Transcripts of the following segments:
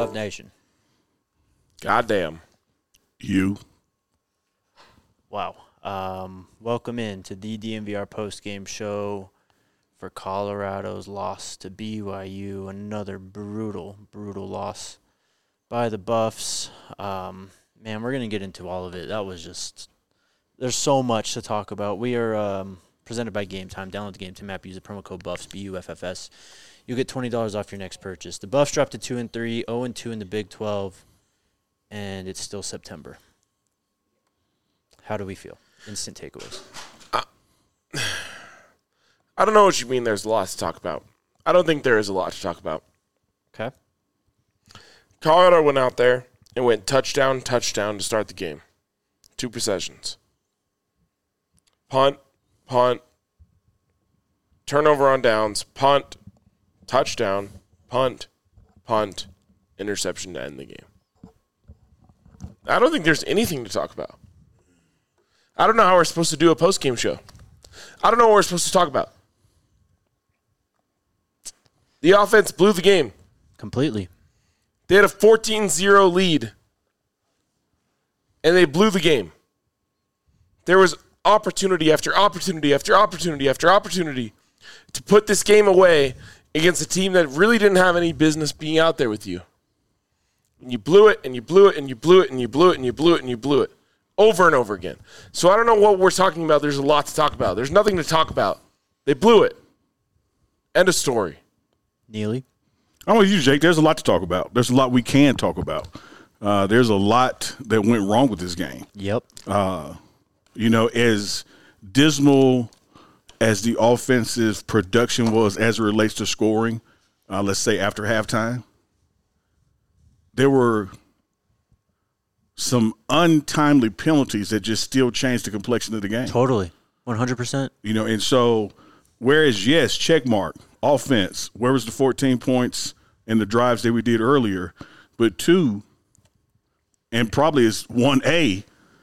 Buff Nation. Goddamn. You. Wow. Welcome in to the DNVR postgame show for Colorado's loss to BYU. Another brutal loss by the Buffs. Man, we're going to get into all of it. That was just – there's so much to talk about. We are presented by Game Time. Download the Game Time app. Use the promo code BUFFS, BUFFS. You'll get $20 off your next purchase. The Buffs dropped to 2-3, 0-2 in the Big 12, and it's still September. How do we feel? Instant takeaways. I don't know what you mean there's a lot to talk about. I don't think there is a lot to talk about. Okay. Colorado went out there and went touchdown to start the game. 2 possessions. Punt, turnover on downs, punt, touchdown, punt, interception to end the game. I don't think there's anything to talk about. I don't know how we're supposed to do a post-game show. I don't know what we're supposed to talk about. The offense blew the game. Completely. They had a 14-0 lead, and they blew the game. There was opportunity after opportunity after opportunity after opportunity to put this game away against a team that really didn't have any business being out there with you. And you blew it, and you blew it, and you blew it, and you blew it, and you blew it, and you blew it. Over and over again. So I don't know what we're talking about. There's a lot to talk about. There's nothing to talk about. They blew it. End of story. Neely? I'm with you, Jake. There's a lot to talk about. There's a lot we can talk about. There's a lot that went wrong with this game. Yep. As dismal as the offensive production was as it relates to scoring, let's say after halftime, there were some untimely penalties that just still changed the complexion of the game. Totally. 100%. And so whereas, yes, check mark, offense, where was the 14 points in the drives that we did earlier? But 2, and probably is 1A,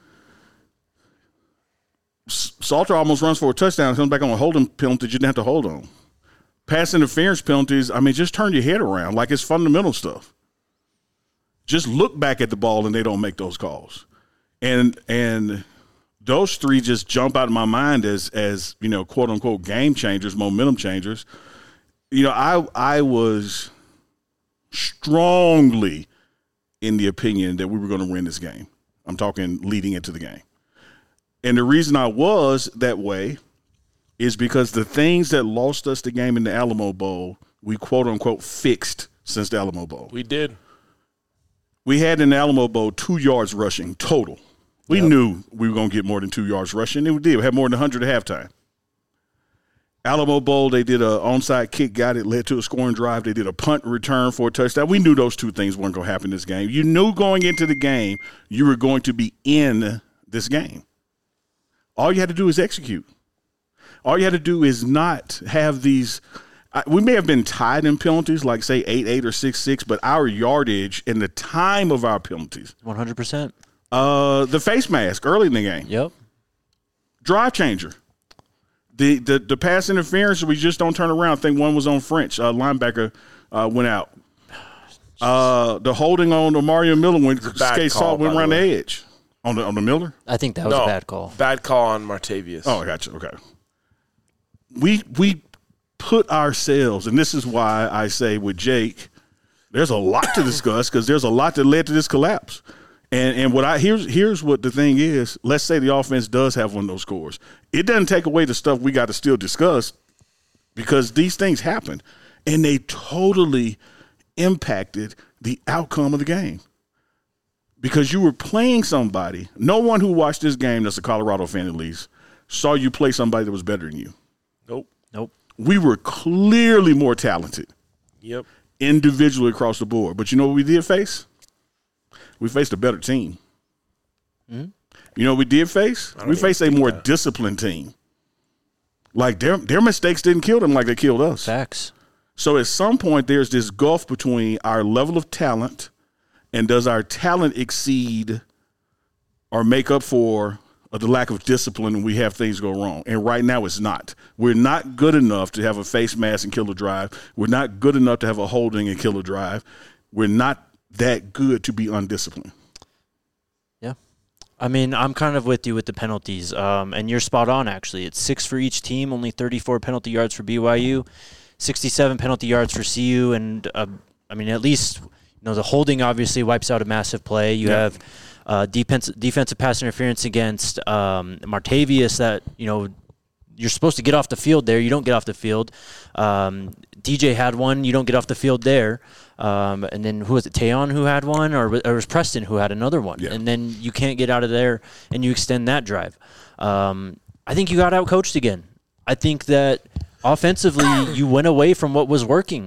Salter almost runs for a touchdown, comes back on a holding penalty you didn't have to hold on. Pass interference penalties, just turn your head around like it's fundamental stuff. Just look back at the ball and they don't make those calls. And those 3 just jump out of my mind as quote unquote game changers, momentum changers. I was strongly in the opinion that we were going to win this game. I'm talking leading into the game. And the reason I was that way is because the things that lost us the game in the Alamo Bowl, we quote unquote fixed since the Alamo Bowl. We did. We had in the Alamo Bowl 2 yards rushing total. We knew we were going to get more than 2 yards rushing, and we did. We had more than 100 at halftime. Alamo Bowl, they did an onside kick, got it, led to a scoring drive. They did a punt return for a touchdown. We knew those 2 things weren't going to happen in this game. You knew going into the game you were going to be in this game. All you had to do is execute. All you had to do is not have these – we may have been tied in penalties, like, say, 8-8 or 6-6, but our yardage and the time of our penalties. 100%. The face mask early in the game. Yep. Drive changer. The pass interference, we just don't turn around. I think one was on French. Linebacker went out. The holding on to Mario Miller when Skate Salt went around the edge. On the Miller? I think that was a bad call. Bad call on Martavius. Oh, I got you. Okay. We put ourselves, and this is why I say with Jake, there's a lot to discuss because there's a lot that led to this collapse. And here's what the thing is. Let's say the offense does have one of those scores. It doesn't take away the stuff we got to still discuss because these things happen, and they totally impacted the outcome of the game. Because you were playing somebody. No one who watched this game that's a Colorado fan at least saw you play somebody that was better than you. Nope. We were clearly more talented. Yep. Individually across the board. But you know what we did face? We faced a better team. Mm-hmm. You know what we did face? We faced a more disciplined team. Like their mistakes didn't kill them like they killed us. Facts. So at some point there's this gulf between our level of talent and does our talent exceed or make up for the lack of discipline when we have things go wrong. And right now it's not. We're not good enough to have a face mask and kill a drive. We're not good enough to have a holding and kill a drive. We're not that good to be undisciplined. Yeah. I mean, I'm kind of with you with the penalties, and you're spot on, actually. It's 6 for each team, only 34 penalty yards for BYU, 67 penalty yards for CU, and, I mean, at least, the holding obviously wipes out a massive play. You have defensive pass interference against Martavius that, you're supposed to get off the field there. You don't get off the field. DJ had one. You don't get off the field there. And then who was it? Tayon who had one, or it was Preston who had another one. Yeah. And then you can't get out of there, and you extend that drive. I think you got outcoached again. I think that offensively you went away from what was working.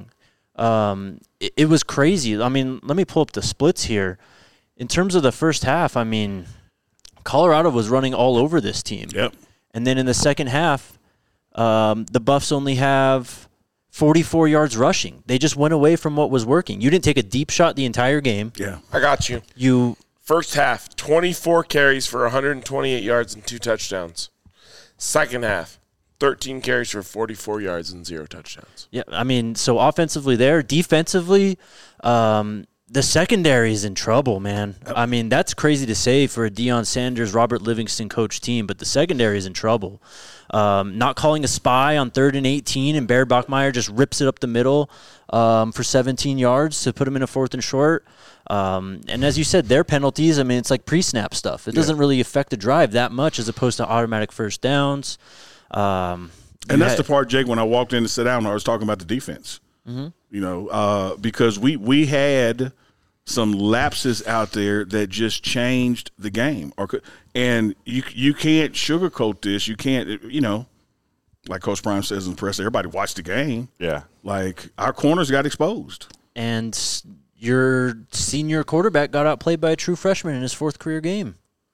It was crazy. I mean, let me pull up the splits here. In terms of the first half, I mean, Colorado was running all over this team. Yep. And then in the second half, the Buffs only have 44 yards rushing. They just went away from what was working. You didn't take a deep shot the entire game. Yeah. I got you. First half, 24 carries for 128 yards and 2 touchdowns. Second half, 13 carries for 44 yards and 0 touchdowns. Yeah, I mean, so offensively there. Defensively, the secondary is in trouble, man. I mean, that's crazy to say for a Deion Sanders, Robert Livingston coach team, but the secondary is in trouble. Not calling a spy on 3rd and 18, and Baird Bachmeier just rips it up the middle for 17 yards to put him in a 4th and short. And as you said, their penalties, I mean, it's like pre-snap stuff. It doesn't really affect the drive that much as opposed to automatic first downs. And that's the part, Jake, when I walked in to sit down, I was talking about the defense. Mm-hmm. Because we had some lapses out there that just changed the game. And you can't sugarcoat this. You can't, like Coach Prime says in the press, everybody watched the game. Yeah. Like, our corners got exposed. And your senior quarterback got outplayed by a true freshman in his 4th career game.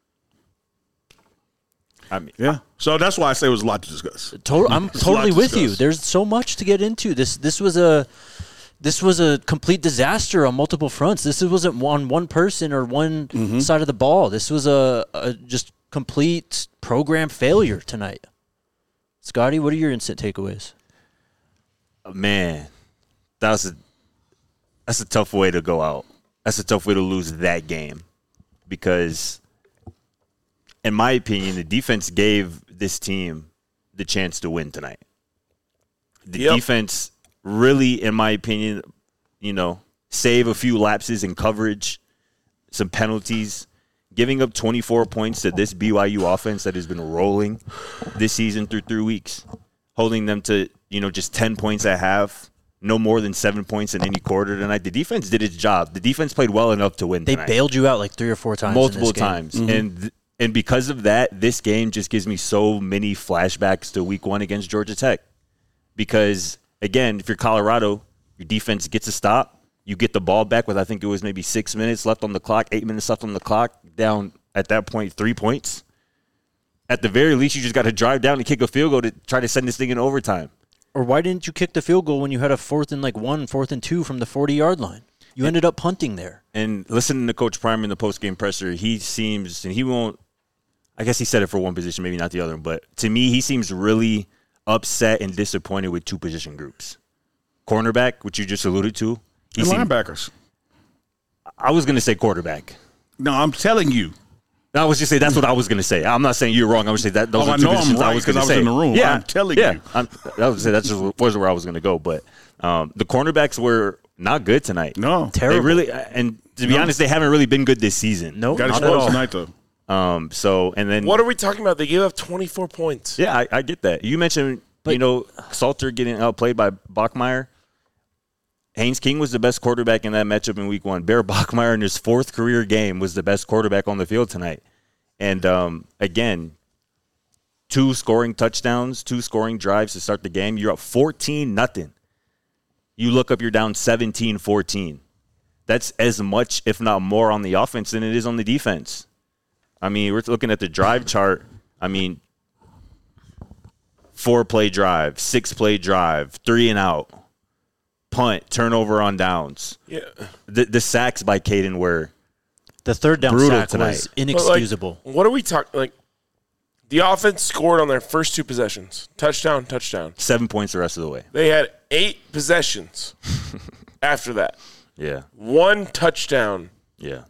I mean, yeah. So that's why I say it was a lot to discuss. I'm totally with you. There's so much to get into. This was a complete disaster on multiple fronts. This wasn't on one person or one side of the ball. This was a just complete program failure tonight. Scotty, what are your instant takeaways? Man, that's a tough way to go out. That's a tough way to lose that game because, in my opinion, the defense gave this team the chance to win tonight. The defense really, in my opinion, save a few lapses in coverage, some penalties, giving up 24 points to this BYU offense that has been rolling this season through 3 weeks, holding them to, just 10 points at half, no more than 7 points in any quarter tonight. The defense did its job. The defense played well enough to win tonight. They bailed you out like 3 or 4 times. Multiple times. Mm-hmm. And because of that, this game just gives me so many flashbacks to week 1 against Georgia Tech. Because, again, if you're Colorado, your defense gets a stop. You get the ball back with, I think it was maybe 6 minutes left on the clock, 8 minutes left on the clock, down at that point 3 points. At the very least, you just got to drive down and kick a field goal to try to send this thing in overtime. Or why didn't you kick the field goal when you had a 4th and 1, 4th and 2 from the 40-yard line? You ended up punting there. And listening to Coach Prime in the postgame presser, he seems, and he won't, I guess he said it for one position, maybe not the other, but to me, he seems really upset and disappointed with 2 position groups. Cornerback, which you just alluded to. And linebackers. I was going to say quarterback. No, I'm telling you. I was just saying that's what I was going to say. I'm not saying you're wrong. I was saying that those are 2 positions I was going to say. I was in the room. Yeah, I'm telling you. That's just was where I was going to go. But the cornerbacks were not good tonight. No, terrible. They really, and to be honest, they haven't really been good this season. No, got not at all. tonight though. So and then what are we talking about? They gave up 24 points. Yeah, I get that. You mentioned Salter getting outplayed by Bachmeier. Haynes King was the best quarterback in that matchup in week 1. Baird Bachmeier in his 4th career game was the best quarterback on the field tonight. And, again, 2 scoring touchdowns, 2 scoring drives to start the game. You're up 14-0. You look up, you're down 17-14. That's as much, if not more, on the offense than it is on the defense. I mean, we're looking at the drive chart. I mean, 4-play drive, 6-play drive, 3 and out. Punt, turnover on downs. Yeah. The sacks by Caden were the 3rd down brutal sack tonight. was inexcusable. What are we talking? The offense scored on their first 2 possessions. Touchdown. 7 points the rest of the way. They had 8 possessions after that. Yeah. 1 touchdown, Yeah.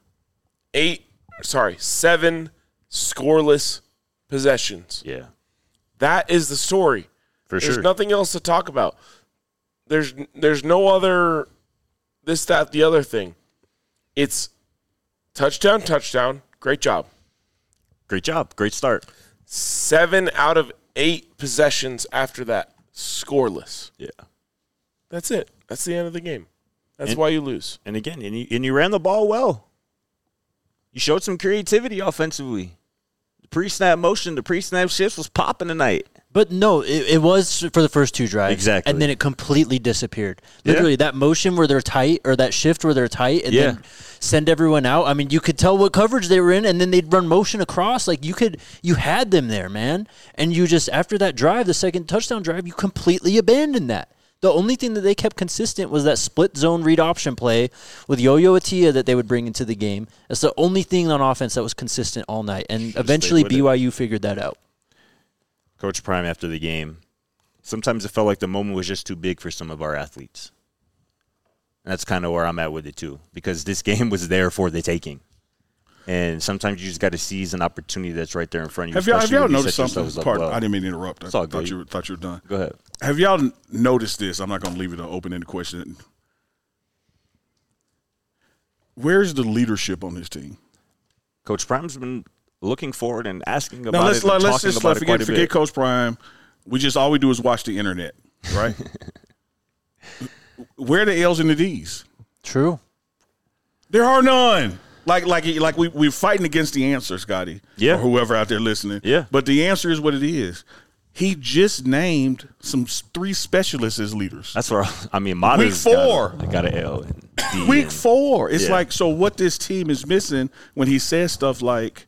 7 scoreless possessions. Yeah. That is the story. For There's sure. nothing else to talk about. There's no other this, that, the other thing. It's touchdown, great job. Great job. Great start. 7 out of 8 possessions after that, scoreless. Yeah. That's it. That's the end of the game. That's why you lose. And again, and you ran the ball well. You showed some creativity offensively. The pre-snap motion, the pre-snap shifts was popping tonight. But no, it was for the first 2 drives. Exactly. And then it completely disappeared. Literally, that motion where they're tight, or that shift where they're tight, and then send everyone out. I mean, you could tell what coverage they were in, and then they'd run motion across. Like, you had them there, man. And you just, after that drive, the second touchdown drive, you completely abandoned that. The only thing that they kept consistent was that split zone read option play with Yo-Yo Atia that they would bring into the game. That's the only thing on offense that was consistent all night. And eventually BYU figured that out. Coach Prime after the game, sometimes it felt like the moment was just too big for some of our athletes. And that's kind of where I'm at with it too, because this game was there for the taking. And sometimes you just got to seize an opportunity that's right there in front of you. Have y'all noticed set something? yourselves up Pardon, well. I didn't mean to interrupt. It's all I thought good. you were done. Go ahead. Have y'all noticed this? I'm not going to leave it an open-ended question. Where's the leadership on this team? Coach Prime's been looking forward and asking Now about it and let's talking just about it quite a forget bit. Coach Prime. All we do is watch the internet, right? Where are the L's and the D's? True. There are none. Like we're fighting against the answer, Scotty. Yeah. Or whoever out there listening. Yeah. But the answer is what it is. He just named 3 specialists as leaders. That's where Mata's Week 4. got an L. And D Week and- 4. It's Yeah. like, so what this team is missing when he says stuff like,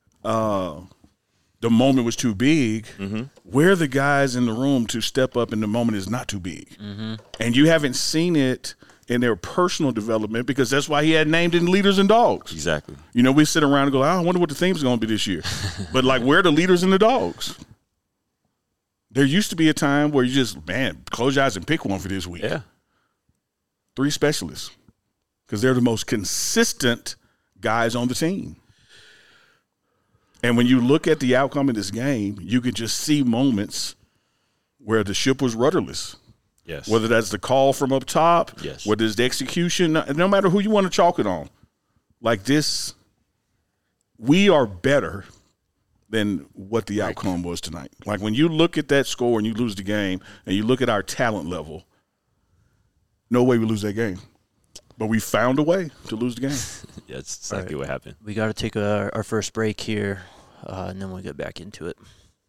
the moment was too big. Mm-hmm. Where are the guys in the room to step up and the moment is not too big? Mm-hmm. And you haven't seen it in their personal development, because that's why he had named in leaders and dogs. Exactly. You know, we sit around and go, I wonder what the theme's going to be this year. But, like, where are the leaders and the dogs? There used to be a time where you just, close your eyes and pick one for this week. Yeah. 3 specialists, because they're the most consistent guys on the team. And when you look at the outcome of this game, you can just see moments where the ship was rudderless. Yes. Whether that's the call from up top, Yes. whether it's the execution, no matter who you want to chalk it on. Like this, we are better than what the outcome was tonight. Like when you look at that score and you lose the game and you look at our talent level, no way we lose that game. But we found a way to lose the game. Yeah, that's exactly what happened. We got to take our first break here, and then we'll get back into it.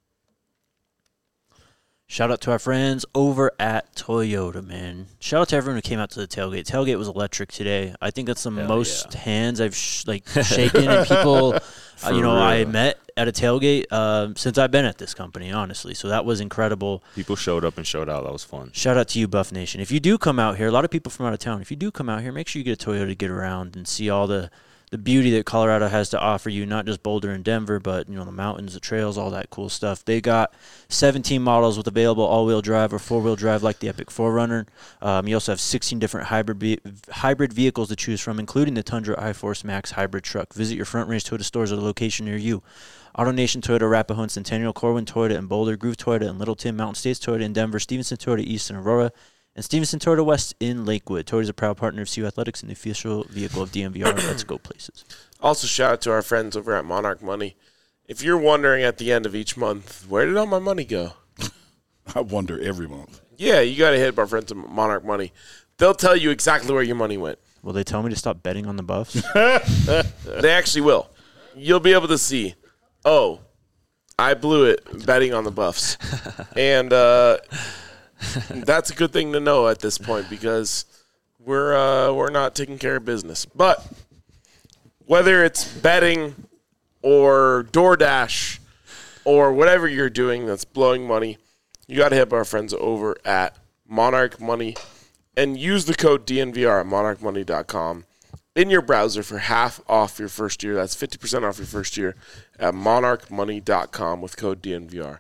Shout out to our friends over at Toyota, man. Shout out to everyone who came out to the tailgate. Tailgate was electric today. I think that's the most hands I've shaken and people I met at a tailgate since I've been at this company, honestly. So that was incredible. People showed up and showed out. That was fun. Shout out to you, Buff Nation. If you do come out here, a lot of people from out of town, if you do come out here, make sure you get a Toyota to get around and see all the beauty that Colorado has to offer you, not just Boulder and Denver, but the mountains, the trails, all that cool stuff. They got 17 models with available all-wheel drive or four-wheel drive like the Epic 4Runner. You also have 16 different hybrid vehicles to choose from, including the Tundra iForce Max hybrid truck. Visit your Front Range Toyota stores at a location near you. AutoNation Toyota, Arapahoe and Centennial, Corwin Toyota in Boulder, Groove Toyota in Littleton, Mountain States Toyota in Denver, Stevenson Toyota East in Aurora, and Stevenson Toyota West in Lakewood. Toyota is a proud partner of CU Athletics and the official vehicle of DMVR. Let's go places. Also, shout out to our friends over at Monarch Money. If you're wondering at the end of each month, where did all my money go? I wonder every month. Yeah, you got to hit up our friends at Monarch Money. They'll tell you exactly where your money went. Will they tell me to stop betting on the Buffs? They actually will. You'll be able to see, I blew it betting on the Buffs. And that's a good thing to know at this point, because we're not taking care of business. But whether it's betting or DoorDash or whatever you're doing that's blowing money, you got to hit up our friends over at Monarch Money and use the code DNVR at monarchmoney.com in your browser for half off your first year. That's 50% off your first year at monarchmoney.com with code DNVR.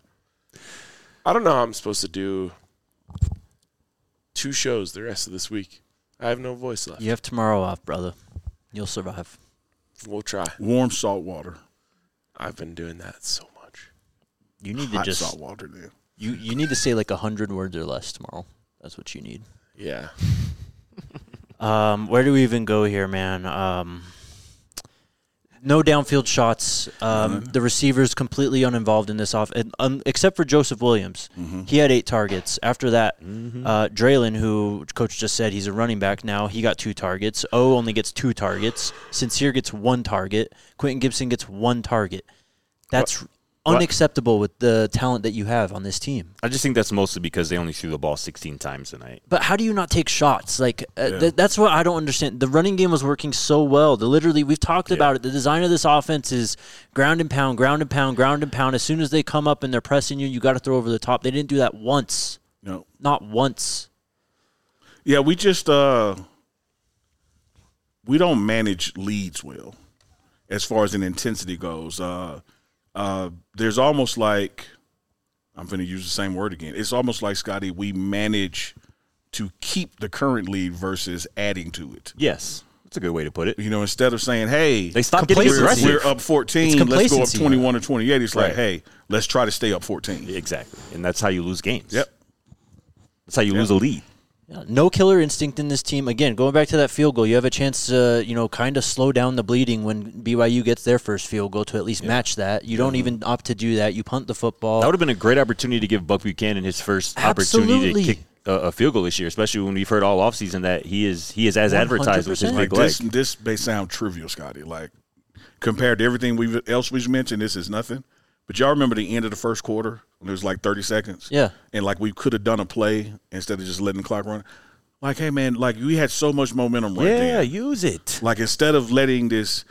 I don't know how I'm supposed to do 2 shows the rest of this week. I have no voice left. You have tomorrow off, brother. You'll survive. We'll try. Warm salt water. I've been doing that so much. You need Hot to just salt water then. you need to say like 100 words or less tomorrow. That's what you need. Yeah. Where do we even go here, man? No downfield shots. The receivers completely uninvolved in this except for Joseph Williams. He had 8 targets. After that, Draylon, who Coach just said he's a running back now, he got 2 targets. O only gets 2 targets. Sincere gets 1 target. Quentin Gibson gets 1 target. That's unacceptable with the talent that you have on this team. I just think that's mostly because they only threw the ball 16 times tonight. But how do you not take shots? Like that's what I don't understand. The running game was working so well. We've talked about it. The design of this offense is ground and pound, ground and pound, ground and pound. As soon as they come up and they're pressing you, you got to throw over the top. They didn't do that once. No. Not once. Yeah, we just we don't manage leads well as far as an intensity goes. There's almost like, I'm going to use the same word again. It's almost like, Scotty, we manage to keep the current lead versus adding to it. Yes. That's a good way to put it. You know, instead of saying, hey, they stopped getting aggressive. We're up 14, let's go up 21 or 28. It's like, hey, let's try to stay up 14. Exactly. And that's how you lose games. Yep. That's how you lose a lead. Yeah, no killer instinct in this team. Again, going back to that field goal, you have a chance to, kind of slow down the bleeding when BYU gets their first field goal to at least match that. You don't even opt to do that. You punt the football. That would have been a great opportunity to give Buck Buchanan his first opportunity to kick a field goal this year, especially when we've heard all offseason that he is as advertised with his big leg. This may sound trivial, Scotty. Like, compared to everything else we've mentioned, this is nothing. But y'all remember the end of the first quarter when it was like 30 seconds? Yeah. And, like, we could have done a play instead of just letting the clock run. Like, hey, man, like, we had so much momentum right there. Yeah, use it. Like, instead of letting this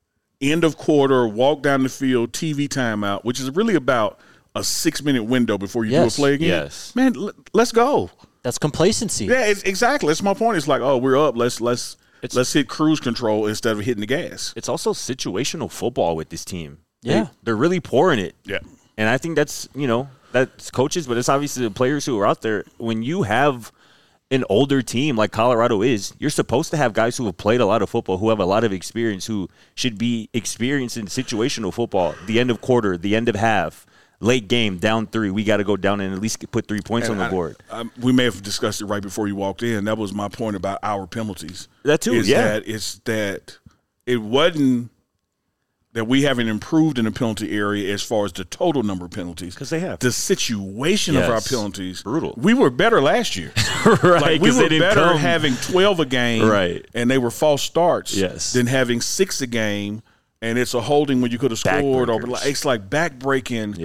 end of quarter, walk down the field, TV timeout, which is really about a 6-minute window before you do a play again. Yes. Man, let's go. That's complacency. Yeah, exactly. That's my point. It's like, oh, we're up. Let's hit cruise control instead of hitting the gas. It's also situational football with this team. Yeah. They're really pouring it. Yeah. And I think that's coaches, but it's obviously the players who are out there. When you have an older team like Colorado is, you're supposed to have guys who have played a lot of football, who have a lot of experience, who should be experienced in situational football. The end of quarter, the end of half, late game, down 3. We got to go down and at least put 3 points on the board. We may have discussed it right before you walked in. That was my point about our penalties. That too, It's that it wasn't that we haven't improved in the penalty area as far as the total number of penalties. Because they have. The situation of our penalties. Brutal. We were better last year. Right. Like, we were better having 12 a game. Right. And they were false starts. Yes. Than having 6 a game. And it's a holding when you could have scored. Or it's like backbreaking.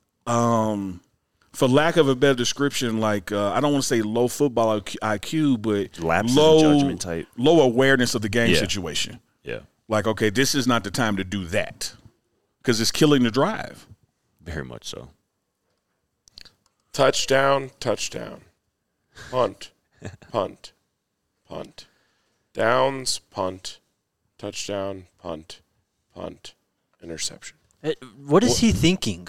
Yeah. For lack of a better description, like I don't want to say low football IQ, but lapses in judgment type. Low awareness of the game situation. Yeah. Like, okay, this is not the time to do that because it's killing the drive. Very much so. Touchdown, touchdown. Punt, punt, punt. Downs, punt. Touchdown, punt, punt. Interception. What is he thinking?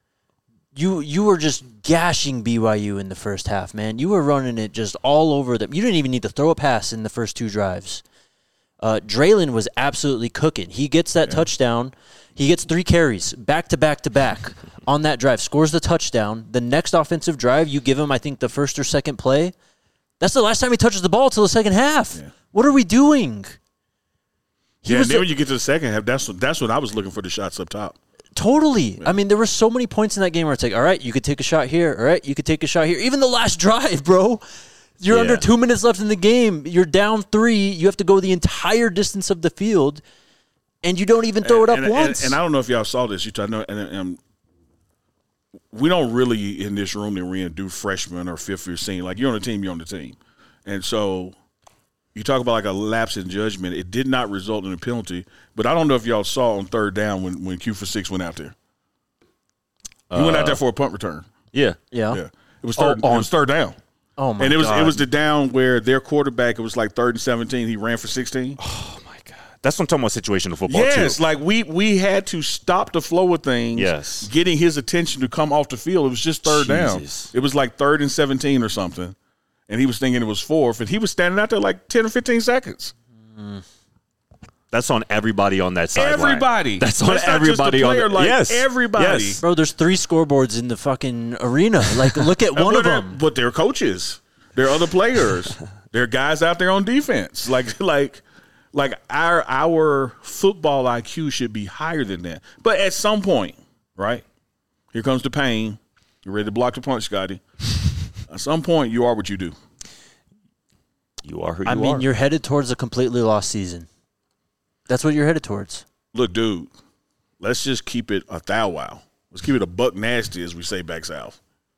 You were just gashing BYU in the first half, man. You were running it just all over them. You didn't even need to throw a pass in the first 2 drives. Draylon was absolutely cooking. He gets that touchdown. He gets 3 carries back to back to back on that drive, scores the touchdown. The next offensive drive, you give him, I think, the first or second play. That's the last time he touches the ball till the second half. Yeah. What are we doing? And then when you get to the second half, that's when I was looking for the shots up top. Totally. Yeah. I mean, there were so many points in that game where it's like, all right, you could take a shot here. All right, you could take a shot here. Even the last drive, bro. You're under 2 minutes left in the game. You're down 3. You have to go the entire distance of the field, and you don't even throw it up once. And I don't know if y'all saw this. I know, and we don't really in this room that we're in do freshman or fifth year senior. Like, you're on the team, you're on the team. And so you talk about like a lapse in judgment. It did not result in a penalty, but I don't know if y'all saw on 3rd down when Q for 6 went out there. He went out there for a punt return. Yeah. It was third down. Oh, my God. And God. it was the down where their quarterback, it was like 3rd and 17. He ran for 16. Oh, my God. That's what I'm talking about, situational football, yes, too. like we had to stop the flow of things, getting his attention to come off the field. It was just third down. It was like 3rd and 17 or something. and he was thinking it was fourth, and he was standing out there like 10 or 15 seconds. That's on everybody on that sideline. Everybody. That's on not just the everybody player, on like yes. everybody. Yes. Bro, there's 3 scoreboards in the fucking arena. Like, look at one of them. But they're coaches. They're other players. There are guys out there on defense. Like our football IQ should be higher than that. But at some point, right? Here comes the pain. You're ready to block the punch, Scotty. At some point, you are what you do. You are who you are. I mean, you're headed towards a completely lost season. That's what you're headed towards. Look, dude, let's just keep it a thou wow. Let's keep it a buck nasty, as we say back south.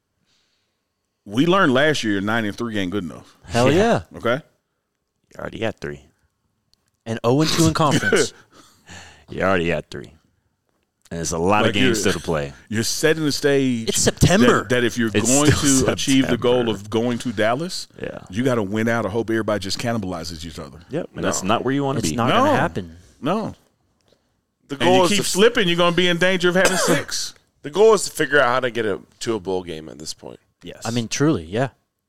We learned last year 9-3 ain't good enough. Hell yeah. Okay? You already had 3. And 0-2 in conference. You already had 3. And there's a lot of games still to play. You're setting the stage. It's September. That if you're It's going to still achieve the September. goal of going to Dallas, Yeah. you got to win out or hope everybody just cannibalizes each other. Yep. And that's not where you want to It's be. not No. going to happen. No. The And goal you is keep to, slipping, you're going to be in danger of having 6. the goal is to figure out how to get to a bowl game at this point. Yes. I mean, truly, yeah.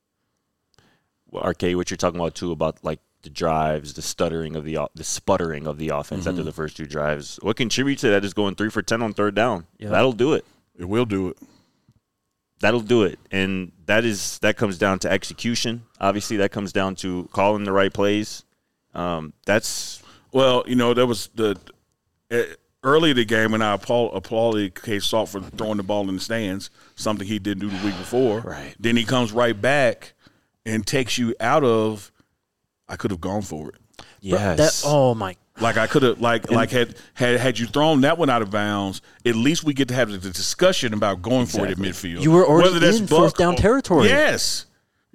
Well, Arcade, what you're talking about too about like the drives, the sputtering of the offense after the first 2 drives. What contributes to that is going 3 for 10 on third down. Yep. That'll do it. It will do it. That'll do it. And that comes down to execution. Obviously, that comes down to calling the right plays. That's Well, there was early in the game when I applauded Case Salt for throwing the ball in the stands, something he didn't do the week before. Right. Then he comes right back and takes you out of, I could have gone for it. yes. Oh, my. Like I could have, had you thrown that one out of bounds, at least we get to have the discussion about going for it at midfield. You were already Whether that's in Buck fourth down or- territory. Yes.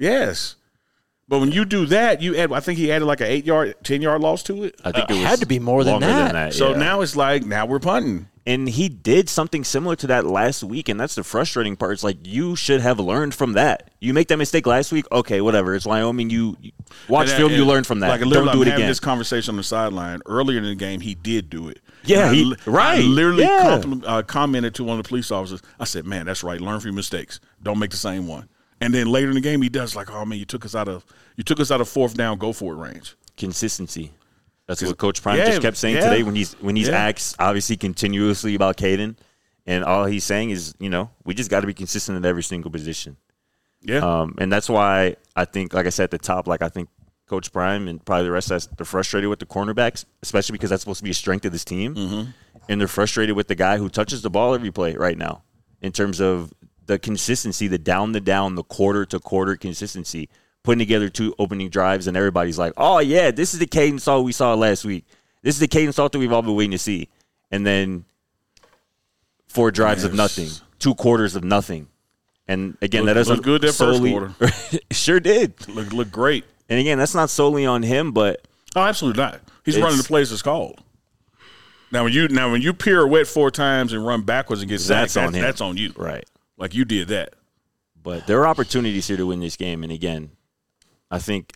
But when you do that, I think he added like an 8-yard, 10-yard loss to it. I think it was had to be more than longer that. So yeah. now it's like, now we're punting. And he did something similar to that last week, and that's the frustrating part. It's like you should have learned from that. You make that mistake last week, okay, whatever. It's Wyoming. You watch film, you learn from that. Like, Don't literally, do it I'm having again. this conversation on the sideline. Earlier in the game, he did do it. Yeah, And I right. literally Yeah. commented to one of the police officers. I said, man, that's right. Learn from your mistakes. Don't make the same one. And then later in the game, he does like, oh, man, you took us out of fourth down, go for it range. Consistency. That's what Coach Prime Yeah, just kept saying yeah. today when he's Yeah. asked obviously continuously about Caden, and all he's saying is, we just got to be consistent at every single position. Yeah. And that's why I think, like I said at the top, like I think Coach Prime and probably the rest of us, they're frustrated with the cornerbacks, especially because that's supposed to be a strength of this team. Mm-hmm. And they're frustrated with the guy who touches the ball every play right now in terms of the consistency, the down, the quarter-to-quarter consistency, putting together 2 opening drives, and everybody's like, oh, yeah, this is the Caden Salt we saw last week. This is the Caden Salt that we've all been waiting to see. And then 4 drives of nothing, 2 quarters of nothing. And, again, that doesn't looked good that first quarter. Sure did. Look great. And, again, that's not solely on him, but Oh, absolutely not. He's It's- running the plays it's called. Now when you pirouette 4 times and run backwards and get sacked, that's on him. that's on you. right. Like you did that. But there are opportunities here to win this game. And, again, I think,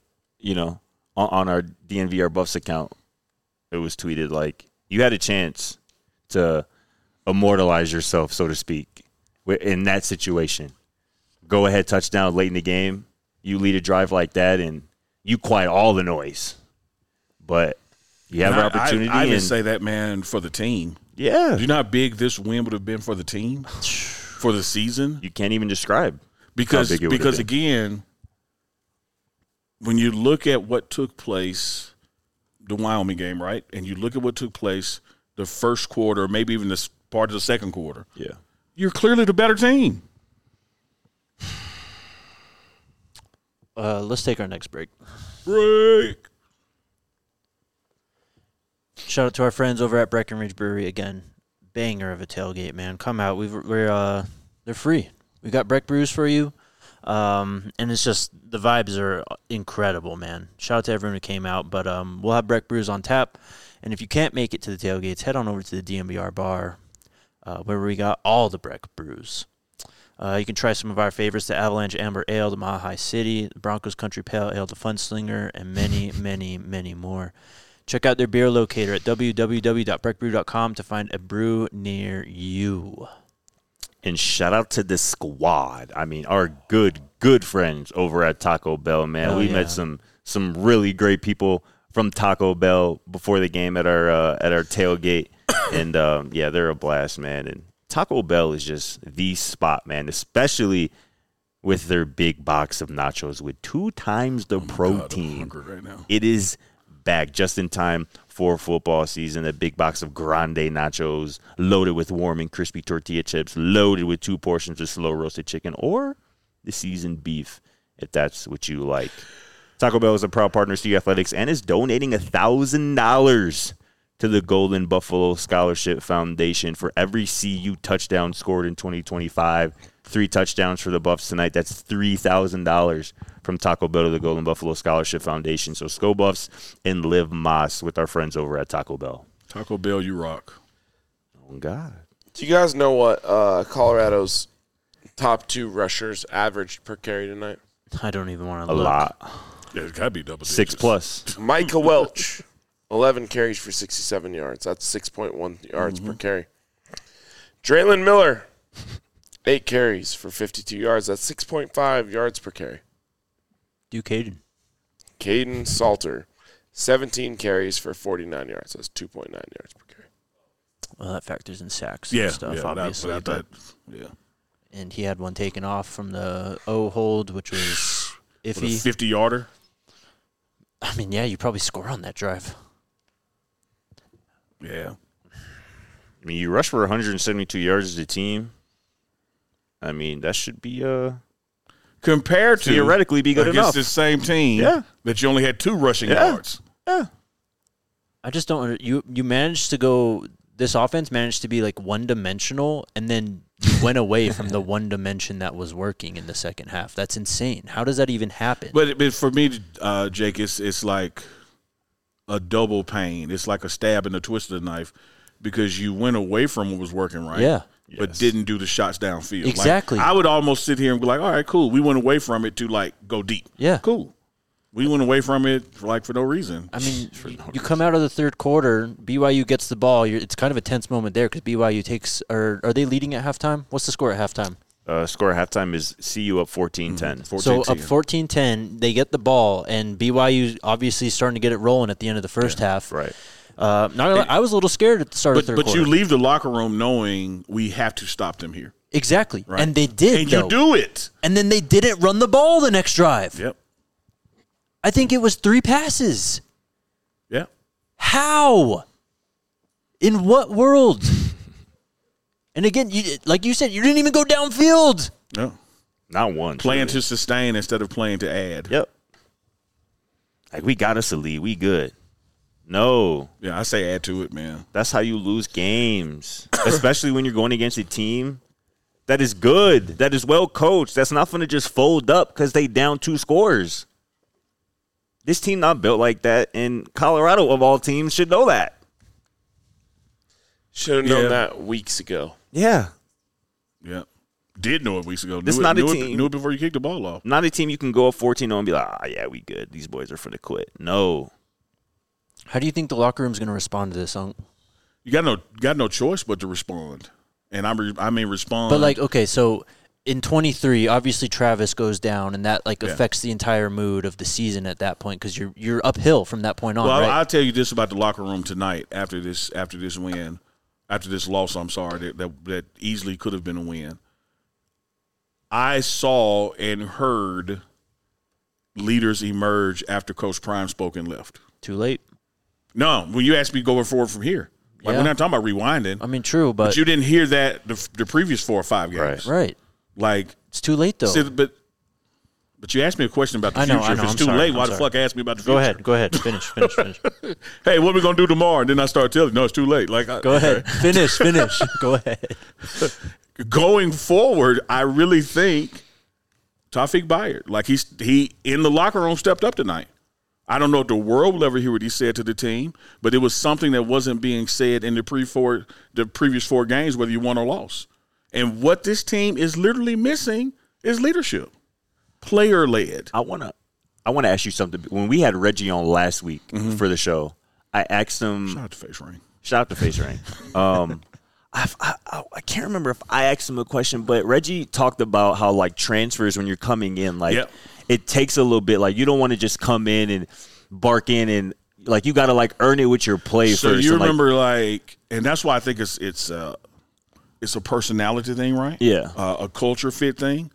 on our DNVR Buffs account, it was tweeted like you had a chance to immortalize yourself, so to speak, in that situation. Go ahead, touchdown late in the game. You lead a drive like that, and you quiet all the noise. But you have an opportunity. I would and say that, man, for the team. yeah, Do you know how big this win would have been for the team, for the season? you can't even describe Because how big it would have been. again, when you look at what took place, the Wyoming game, right, and you look at what took place the first quarter, maybe even this part of the second quarter, Yeah. you're clearly the better team. Let's take our next break. Break. Shout out to our friends over at Breckenridge Brewery again. Banger of a tailgate, man. Come out. They're free. We got Breck brews for you. And it's just the vibes are incredible, man. Shout out to everyone who came out. But we'll have Breck brews on tap. And if you can't make it to the tailgates, head on over to the DNVR bar, where we got all the Breck brews. You can try some of our favorites: the Avalanche Amber Ale, the Mile High City, the Broncos Country Pale Ale, the Funslinger, and many, many, many more. Check out their beer locator at www.breckbrew.com to find a brew near you. And shout out to the squad. I mean, our good friends over at Taco Bell, man. We met some really great people from Taco Bell before the game at our tailgate. And, they're a blast, man. And Taco Bell is just the spot, man, especially with their big box of nachos with 2 times the protein. God, I'm hungry right now. It is back just in time for football season. A big box of grande nachos loaded with warm and crispy tortilla chips, loaded with 2 portions of slow roasted chicken or the seasoned beef, if that's what you like. Taco Bell is a proud partner of CU Athletics and is donating $1,000 to the Golden Buffalo Scholarship Foundation for every CU touchdown scored in 2025. 3 touchdowns for the Buffs tonight. That's $3,000 from Taco Bell to the Golden Buffalo Scholarship Foundation. So Sko Buffs and Liv Moss with our friends over at Taco Bell. Taco Bell, you rock. Oh, God. Do you guys know what Colorado's top 2 rushers averaged per carry tonight? I don't even want A to look. lot. Yeah, it's got to be double digits. 6+. Micah Welch, 11 carries for 67 yards. That's 6.1 yards per carry. Draylon Miller, 8 carries for 52 yards. That's 6.5 yards per carry. Duke Hayden. Caden Salter, 17 carries for 49 yards. That's 2.9 yards per carry. Well, that factors in sacks Yeah, and stuff, obviously. yeah. And he had one taken off from the O hold, which was With a iffy. 50-yarder. I mean, yeah, you probably score on that drive. Yeah. I mean, you rush for 172 yards as a team. I mean, that should be Compared to theoretically be good enough. against the same team that you only had 2 rushing yards. Yeah. I just don't. You managed to go. This offense managed to be like one-dimensional, and then you went away from the one dimension that was working in the second half. That's insane. How does that even happen? But for me, Jake, it's like a double pain. It's like a stab and a twist of the knife because you went away from what was working right. Yeah. But didn't do the shots downfield. Exactly. Like, I would almost sit here and be like, all right, cool. We went away from it to, like, go deep. Yeah. Cool. We went away from it, for no reason. I mean, you come out of the third quarter, BYU gets the ball. It's kind of a tense moment there because BYU takes – are they leading at halftime? What's the score at halftime? Score at halftime is CU up 14-10. So up 14-10, they get the ball, and BYU obviously starting to get it rolling at the end of the first half. Right. I was a little scared at the start of the third But quarter. you leave the locker room knowing we have to stop them here. Exactly. Right. And they did, And you do it. And then they didn't run the ball the next drive. Yep. I think it was 3 passes. Yeah. How? In what world? And again, like you said, you didn't even go downfield. No. Not once. Playing really. to sustain instead of playing to add. Yep. Like, we got us a lead. We good. No. Yeah, I say add to it, man. That's how you lose games, especially when you're going against a team that is good, that is well coached, that's not going to just fold up because they down 2 scores. This team not built like that, and Colorado, of all teams, should know that. Should have known that weeks ago. Yeah. Yeah. Did know it weeks ago. This Knew not it, a knew team. It, knew it before you kicked the ball off. Not a team you can go up 14-0 and be like, yeah, we good. These boys are finna quit. No. How do you think the locker room's going to respond to this? You got no choice but to respond. And I mean respond. But, like, okay, so in 23, obviously Travis goes down, and that, affects the entire mood of the season at that point because you're uphill from that point on, well, right? I'll tell you this about the locker room tonight after this win, after this loss, I'm sorry, that easily could have been a win. I saw and heard leaders emerge after Coach Prime spoke and left. Too late. No, when you asked me going forward from here. Like, we're not talking about rewinding. I mean, true, but you didn't hear that the previous 4 or 5 games. right. Like, It's too late, though. but you asked me a question about the I know, future. I know, If it's I'm too sorry, late, I'm why the sorry. fuck ask me about the future? Go ahead. Finish. Hey, what are we going to do tomorrow? And then I start telling you, no, it's too late. Like, Go ahead. Finish. Go ahead. Going forward, I really think Tawfiq Bayard, like he in the locker room stepped up tonight. I don't know if the world will ever hear what he said to the team, but it was something that wasn't being said in the previous 4 games, whether you won or lost. And what this team is literally missing is leadership, player-led. I want to ask you something. When we had Reggie on last week for the show, I asked him. Shout out to Face Ring. Shout out to Face Ring. I can't remember if I asked him a question, but Reggie talked about how like transfers when you're coming in, like it takes a little bit. Like you don't want to just come in and bark in and like you got to like earn it with your play first. So you remember and that's why I think it's a personality thing, right? Yeah, a culture fit thing.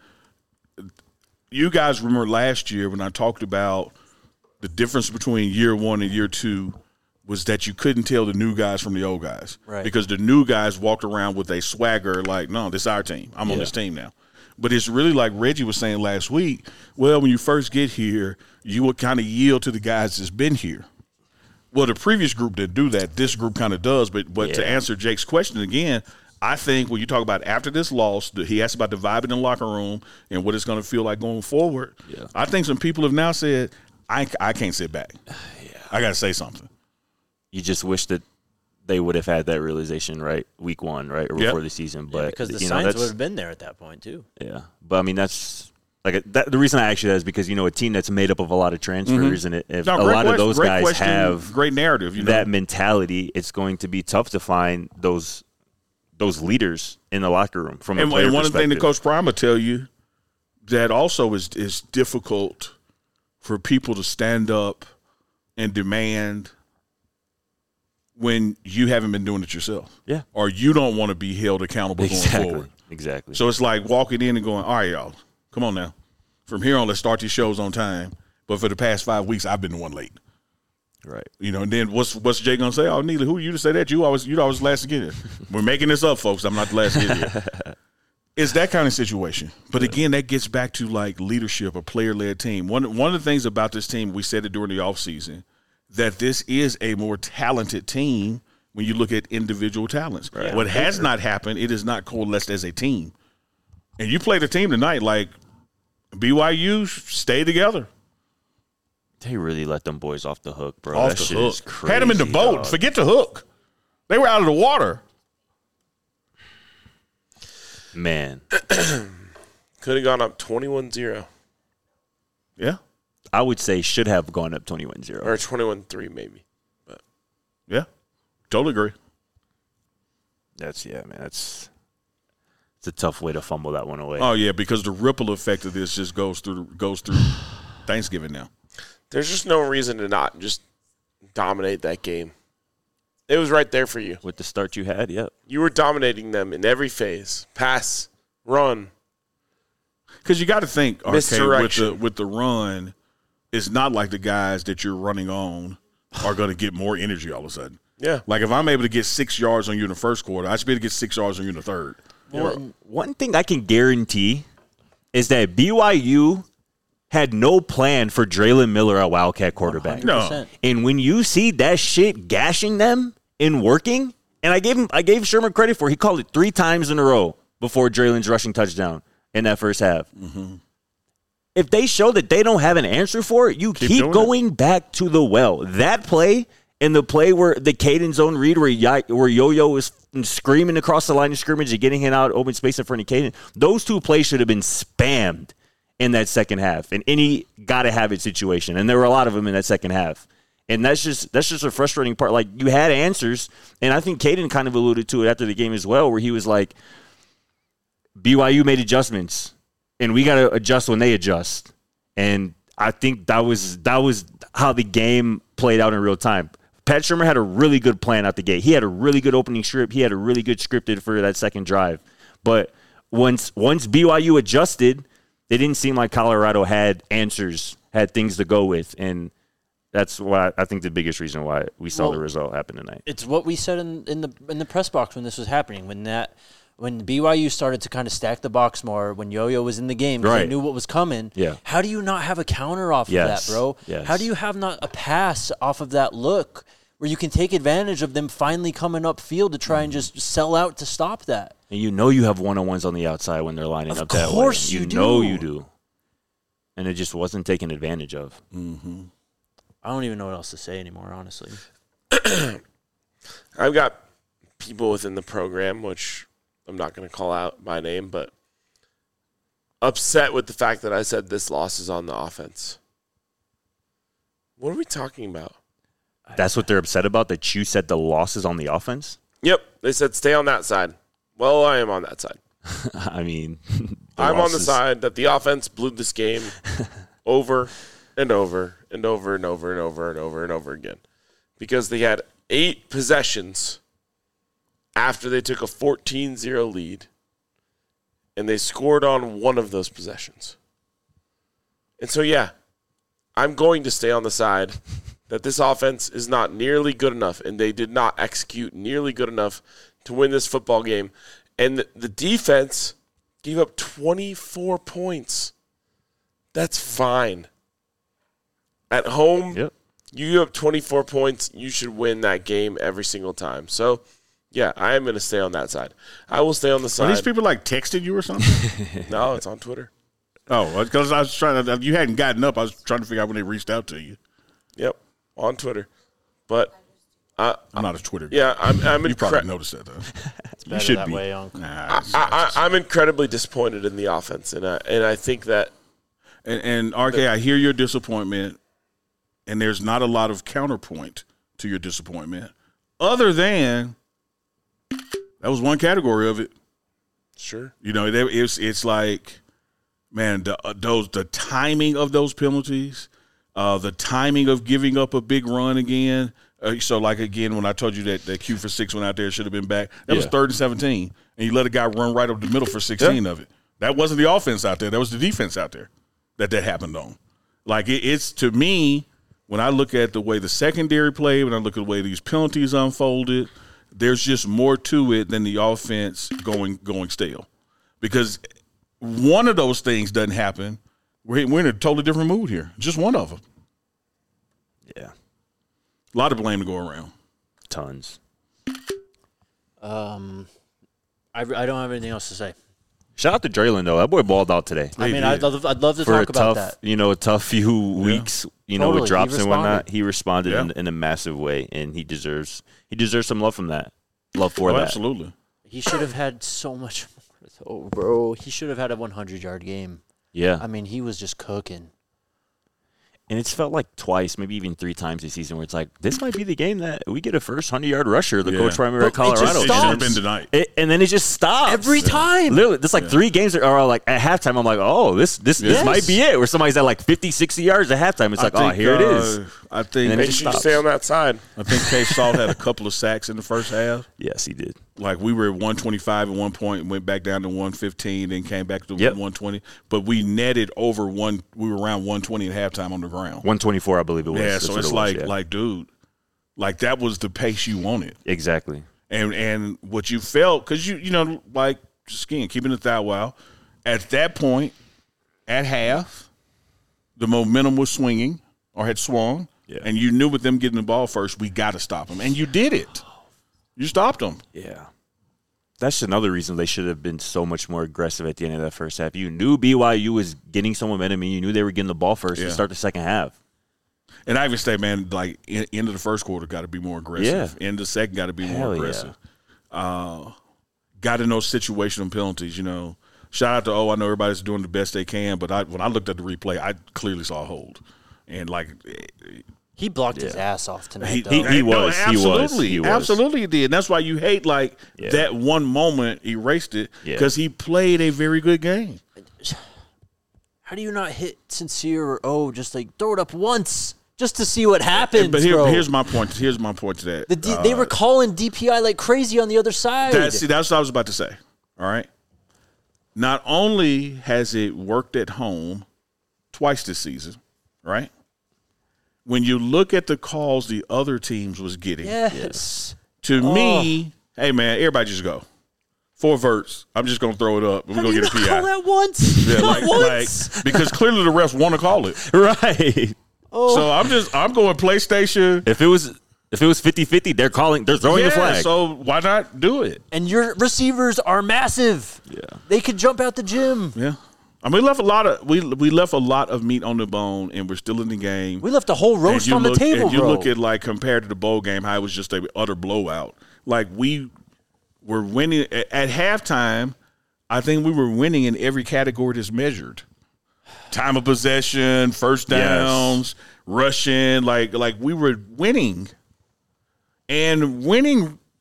You guys remember last year when I talked about the difference between year one and year two was that you couldn't tell the new guys from the old guys. Right. Because the new guys walked around with a swagger like, no, this is our team. I'm on this team now. But it's really like Reggie was saying last week, well, when you first get here, you would kind of yield to the guys that's been here. Well, the previous group didn't do that. This group kind of does. But to answer Jake's question again, I think when you talk about after this loss, he asked about the vibe in the locker room and what it's going to feel like going forward. Yeah. I think some people have now said, I can't sit back. I got to say something. You just wish that they would have had that realization, right, week one, right, or before the season. But because the signs would have been there at that point too. Yeah, but I mean that's like the reason I ask you that is because a team that's made up of a lot of transfers, and a lot of those guys have great narrative. That mentality, it's going to be tough to find those leaders in the locker room from a player and one perspective. thing that Coach Prime will tell you that also is difficult for people to stand up and demand when you haven't been doing it yourself. Yeah. Or you don't want to be held accountable going forward. Exactly. So it's like walking in and going, all right, y'all, come on now. From here on, let's start these shows on time. But for the past 5 weeks, I've been the one late. Right. And then what's Jay going to say? Oh, Neely, who are you to say that? You always last to get here. We're making this up, folks. I'm not the last to get here. It's that kind of situation. But again, that gets back to like leadership, a player-led team. One of the things about this team, we said it during the offseason, that this is a more talented team when you look at individual talents. Right. What has not happened, it is not coalesced as a team. And you played a team tonight like BYU, stay together. They really let them boys off the hook, bro. Off that the shit hook. Is crazy, had them in the boat. Dog. Forget the hook. They were out of the water. Man. Could have gone up 21-0. Yeah. I would say should have gone up 21-0. Or 21-3 maybe. But yeah. Totally agree. It's a tough way to fumble that one away. Oh yeah, because the ripple effect of this just goes through Thanksgiving now. There's just no reason to not just dominate that game. It was right there for you. With the start you had, yep. You were dominating them in every phase. Pass, run. Because you got to think, Misdirection. with the run, it's not like the guys that you're running on are going to get more energy all of a sudden. Yeah. Like if I'm able to get 6 yards on you in the first quarter, I should be able to get 6 yards on you in the third. Well, one thing I can guarantee is that BYU had no plan for Draylon Miller at Wildcat quarterback. 100%. No. And when you see that shit gashing them and working, and I gave Sherman credit for it. He called it 3 times in a row before Draylon's rushing touchdown in that first half. Mm-hmm. If they show that they don't have an answer for it, you keep going back to the well. That play and the play where the Caden zone read where Yo-Yo is screaming across the line of scrimmage and getting him out open space in front of Caden, those 2 plays should have been spammed in that second half, in any gotta-have-it situation. And there were a lot of them in that second half. And that's just a frustrating part. Like, you had answers, and I think Caden kind of alluded to it after the game as well, where he was like, BYU made adjustments, and we got to adjust when they adjust. And I think that was how the game played out in real time. Pat Shermer had a really good plan out the gate. He had a really good opening script. He had a really good scripted for that second drive. But once BYU adjusted, it didn't seem like Colorado had answers, had things to go with. And that's why I think the biggest reason why we saw the result happen tonight. It's what we said in the press box when this was happening, when BYU started to kind of stack the box more, when Yo-Yo was in the game, because they knew what was coming. Yeah. How do you not have a counter off of that, bro? Yes. How do you have not a pass off of that look where you can take advantage of them finally coming up field to try and just sell out to stop that? And you have one-on-ones on the outside when they're lining up that way. Of course you do. You know you do. And it just wasn't taken advantage of. Mm-hmm. I don't even know what else to say anymore, honestly. I've got people within the program, which I'm not going to call out by name, but upset with the fact that I said this loss is on the offense. What are we talking about? That's what they're upset about, that you said the loss is on the offense? Yep. They said stay on that side. Well, I am on that side. I mean, I'm on the side that the offense blew this game over and over and over and over and over and over and over again. Because they had 8 possessions after they took a 14-0 lead, and they scored on one of those possessions. And so, yeah, I'm going to stay on the side that this offense is not nearly good enough, and they did not execute nearly good enough to win this football game. And the defense gave up 24 points. That's fine. At home, Yep. you give up 24 points, you should win that game every single time. So, yeah, I am going to stay on that side. I will stay on the Are side. these people like texting you or something? No, it's on Twitter. Oh, because I was trying to. You hadn't gotten up. I was trying to figure out when they reached out to you. Yep, on Twitter. But, I'm not a Twitter guy. yeah, I'm You probably noticed that, though. It's better should that be. way, Unc. Nah, I'm incredibly disappointed in the offense, and I think that and RK, I hear your disappointment, and there's not a lot of counterpoint to your disappointment, other than that was one category of it. sure. You know, it's like, man, the timing of those penalties, the timing of giving up a big run again. So, like, again, when I told you that Q for 6 went out there, should have been back, that was 3rd and 17, and you let a guy run right up the middle for 16 of it. That wasn't the offense out there. That was the defense out there that happened on. Like, it's, to me, when I look at the way the secondary played, when I look at the way these penalties unfolded, there's just more to it than the offense going stale. Because one of those things doesn't happen, we're in a totally different mood here. Just one of them. Yeah. A lot of blame to go around. Tons. I don't have anything else to say. Shout out to Draylon, though. That boy balled out today. I mean, did. I'd love to For talk a about tough, that. a tough few weeks, Totally. with drops He and whatnot. responded. He responded Yeah. in a massive way, and he deserves some love from that. Love for that. Absolutely. He should have had so much more, though, bro. He should have had a 100-yard game. Yeah. I mean, he was just cooking. And it's felt like twice, maybe even 3 times this season where it's like, this might be the game that we get a first 100-yard rusher, the Yeah. coach primary at But it just Colorado. It should have stops. been tonight. And then it just stops. Every time. Literally, there's like 3 games that are like at halftime. I'm like, oh, this Yes. might be it. Where somebody's at like 50, 60 yards at halftime. It's like, oh, here it is. I think And then it Make just sure you stops. stay on that side. Case Salt had a couple of sacks in the first half. Yes, he did. Like, we were at 125 at one point and went back down to 115, then came back to Yep. 120. But we netted over one. We were around 120 at halftime on the ground. 124, I believe it was. Yeah, That's so what it's it was, like, yeah. dude, like that was the pace you wanted, Exactly. and what you felt, because you like, just again, keeping it that while at that point at half, the momentum was swinging or had swung, Yeah. and you knew with them getting the ball first, we got to stop them, and you did it. You stopped them. Yeah. That's another reason they should have been so much more aggressive at the end of that first half. You knew BYU was getting some momentum, and you knew they were getting the ball first to start the second half. And I even say, man, like end of the first quarter, got to be more aggressive. Yeah. End of the second, got to be Hell more yeah. aggressive. Got to know situational penalties. Shout out to I know everybody's doing the best they can, but when I looked at the replay, I clearly saw a hold, and like He blocked his ass off tonight, He- though. he- was. absolutely, absolutely did. And that's why you hate Yeah. that one moment erased it Yeah. because he played a very good game. How do you not hit Sincere or just like throw it up once just to see what happens, But bro? here's my point. Here's my point to that. They were calling DPI like crazy on the other side. That's what I was about to say. All right. Not only has it worked at home twice this season, right? When you look at the calls the other teams was getting, Yes. to me, hey man, everybody just go 4 verts. I'm just gonna throw it up. We're How gonna do you get a not PI. call that once? Yeah, Not once. because clearly the refs want to call it. Right. So I'm going PlayStation. If it was 50-50, they're throwing the flag. So why not do it? And your receivers are massive. Yeah. They could jump out the gym. Yeah. I mean, we left a lot of meat on the bone, and we're still in the game. We left a whole roast And on the table, and you bro. look at, like, compared to the bowl game, how it was just an utter blowout. Like, we were winning at halftime. I think we were winning in every category that's measured: time of possession, first downs, rushing. Like we were winning, and winning.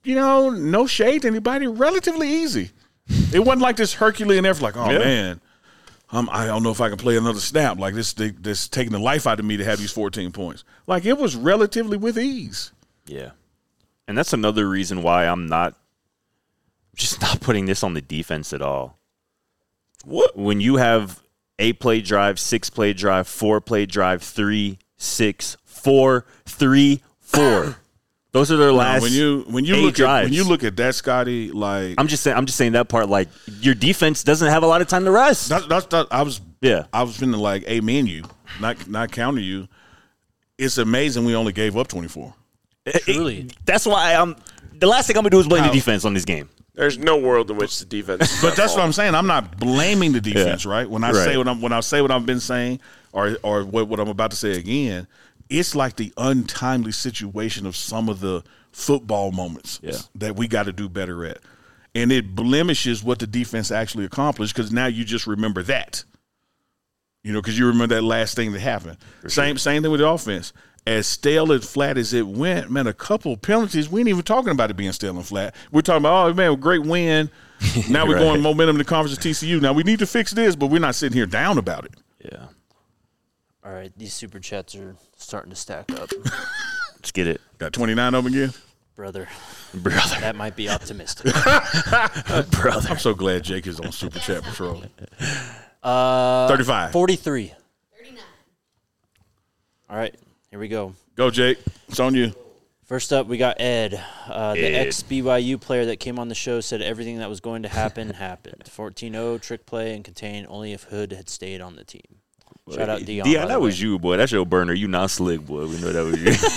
no shade to anybody, relatively easy. It wasn't like this Herculean effort, like, oh, man, I don't know if I can play another snap. Like, this taking the life out of me to have these 14 points. Like, it was relatively with ease. Yeah. And that's another reason why I'm just not putting this on the defense at all. What? When you have 8-play drive, 6-play drive, 4-play drive, 3, 6, 4, 3, 4. Those are their last when you 8 look drives. when you look at that, Scotty, like I'm just saying that part. Like, your defense doesn't have a lot of time to rest. I was finna like amen you, not counter you. It's amazing we only gave up 24. Truly. That's why the last thing I'm gonna do is blame the defense on this game. There's no world in which the defense. But that's what I'm saying. I'm not blaming the defense, right? When I Right. say what I've been saying, or what I'm about to say again, it's like the untimely situation of some of the football moments that we got to do better at, and it blemishes what the defense actually accomplished because now you just remember that, because you remember that last thing that happened. Same thing with the offense. As stale and flat as it went, man, a couple of penalties, we ain't even talking about it being stale and flat. We're talking about, oh, man, great win. Now we're going momentum to conference of TCU. Now we need to fix this, but we're not sitting here down about it. Yeah. All right, these super chats are starting to stack up. Let's get it. Got 29 of them again? Brother, Brother. that might be optimistic. Brother. I'm so glad Jake is on Super Chat Patrol. 35. 43. 39. All right, here we go. Go, Jake. It's on you. First up, we got Ed. The ex-BYU player that came on the show said everything that was going to happen happened. 14-0, trick play, and contain only if Hood had stayed on the team. Shout out Dion. Dion, that was you, boy. That's your burner. You not slick, boy. We know that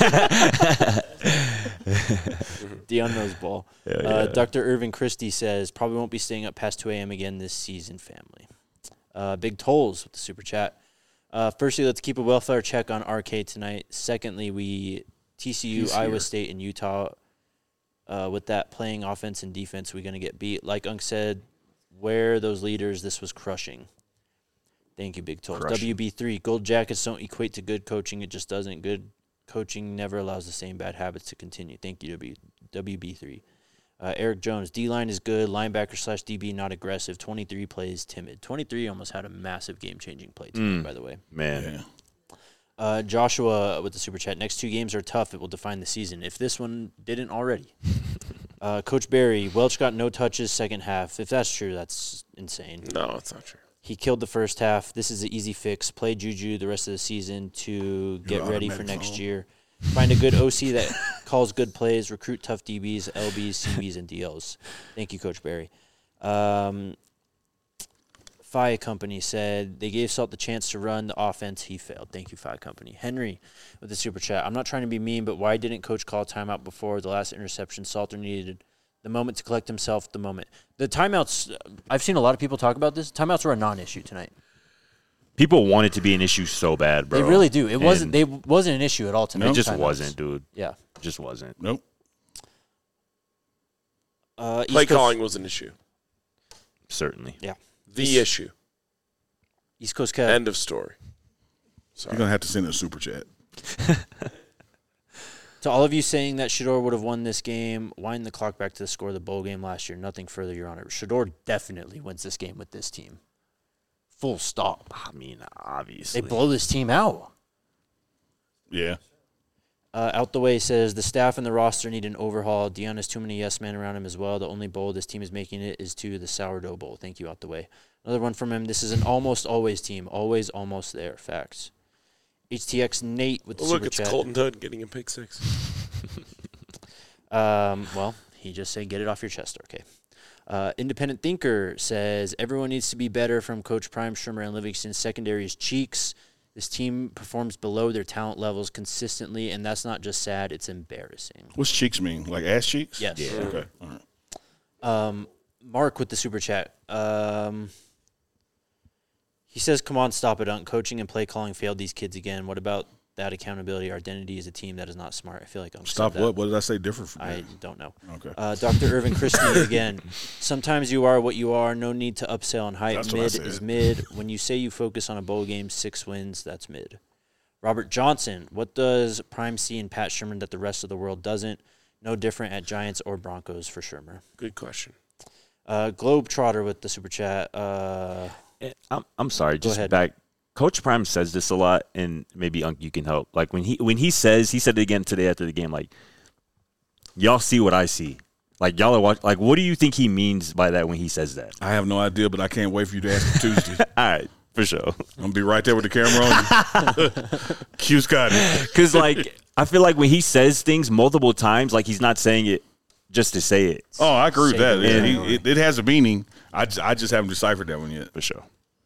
was you. Dion knows ball. Dr. Irvin Christie says, probably won't be staying up past 2 a.m. again this season, family. Big Tolls with the super chat. Firstly, let's keep a welfare check on RK tonight. Secondly, TCU, Iowa State, and Utah, with that playing offense and defense, we're going to get beat. Like Unk said, where those leaders, this was crushing. Thank you, Big Tolls. WB3, Gold Jackets don't equate to good coaching. It just doesn't. Good coaching never allows the same bad habits to continue. Thank you, WB3. Eric Jones, D-line is good. Linebacker/DB not aggressive. 23 plays timid. 23 almost had a massive game-changing play tonight, by the way. Man. Yeah. Joshua with the super chat. Next 2 games are tough. It will define the season. If this one didn't already. Coach Barry, Welch got no touches second half. If that's true, that's insane. No, it's not true. He killed the first half. This is an easy fix. Play Juju the rest of the season to get ready for next year. Find a good OC that calls good plays. Recruit tough DBs, LBs, CBs, and DLs. Thank you, Coach Barry. Fi Company said they gave Salt the chance to run the offense. He failed. Thank you, Fi Company. Henry with the super chat. I'm not trying to be mean, but why didn't Coach call timeout before the last interception? Salter needed the moment to collect himself, the moment. The timeouts, I've seen a lot of people talk about this. Timeouts were a non-issue tonight. People want it to be an issue so bad, bro. They really do. It wasn't an issue at all tonight. It just timeouts. wasn't, dude. Yeah. It just wasn't. Nope. Play calling was an issue. Certainly. Yeah. The issue. East Coast Kev. End of story. Sorry. You're going to have to send a Super Chat. To all of you saying that Shedeur would have won this game, wind the clock back to the score of the bowl game last year. Nothing further, Your Honor. Shedeur definitely wins this game with this team. Full stop. I mean, obviously. They blow this team out. Yeah. Out the way says the staff and the roster need an overhaul. Dion has too many yes men around him as well. The only bowl this team is making it is to the sourdough bowl. Thank you, Out the way. Another one from him. This is an almost always team. Always almost there. Facts. HTX Nate with the super Look, chat. it's Colton Hood getting a pick 6. Well, he just said get it off your chest. Okay. Independent Thinker says everyone needs to be better from Coach Prime, Shrimmer, and Livingston. Secondary is cheeks. This team performs below their talent levels consistently, and that's not just sad, it's embarrassing. What's cheeks mean? Like ass cheeks? Yes. Yeah. Okay. All right. Mark with the super chat. He says, come on, stop it, Unk. Coaching and play calling failed these kids again. What about that accountability? Our identity is a team that is not smart. I feel like Unk Stop said that. what? What did I say different from I that? don't know. Okay. Dr. Irvin Christie again. Sometimes you are what you are. No need to upsell and hype. That's what I Mid said. is mid. When you say you focus on a bowl game, 6 wins, that's mid. Robert Johnson. What does Prime see in Pat Sherman that the rest of the world doesn't? No different at Giants or Broncos for Shermer. Good question. Globetrotter with the super chat. I'm sorry. Just ahead. back. Coach Prime says this a lot, and maybe Unc, you can help. Like when he said it again today after the game. Like, y'all see what I see. Like y'all are watching. Like, what do you think he means by that when he says that? I have no idea, but I can't wait for you to ask him Tuesday. All right, for sure. I'm going to be right there with the camera on you. Q Scott. Because, like, I feel like when he says things multiple times, like he's not saying it just to say it. Oh, I agree with that. Yeah. It has a meaning. I just haven't deciphered that one yet. For sure.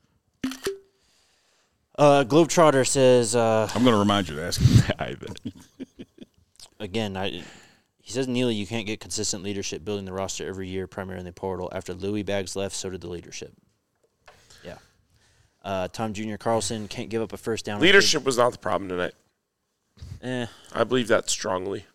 Globetrotter says, I'm going to remind you to ask him. I bet. again, he says, Neely, you can't get consistent leadership building the roster every year, primarily in the portal. After Louis Bags left, so did the leadership. Yeah. Tom Jr. Carlson can't give up a first down. Leadership was not the problem tonight. Eh. I believe that strongly.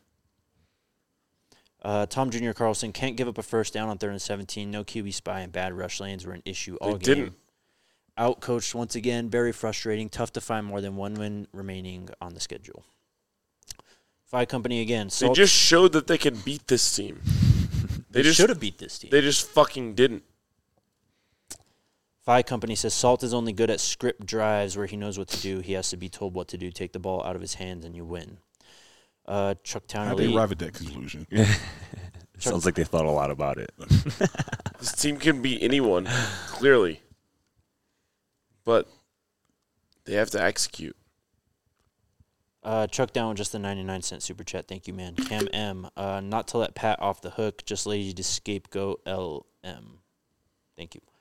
Tom Jr. Carlson can't give up a first down on 3rd and 17. No QB spy and bad rush lanes were an issue all They game. didn't. Outcoached once again. Very frustrating. Tough to find more than one win remaining on the schedule. Phi Company again. They just showed that they could beat this team. They just should have beat this team. They just fucking didn't. Phi Company says Salt is only good at script drives where he knows what to do. He has to be told what to do. Take the ball out of his hands and you win. Chucktown How they Elite. arrive at that conclusion? Sounds like they thought a lot about it. This team can beat anyone, clearly. But they have to execute. Chuck down with just the 99-cent super chat. Thank you, man. Cam M. Not to let Pat off the hook. Just lazy to scapegoat LM. Thank you.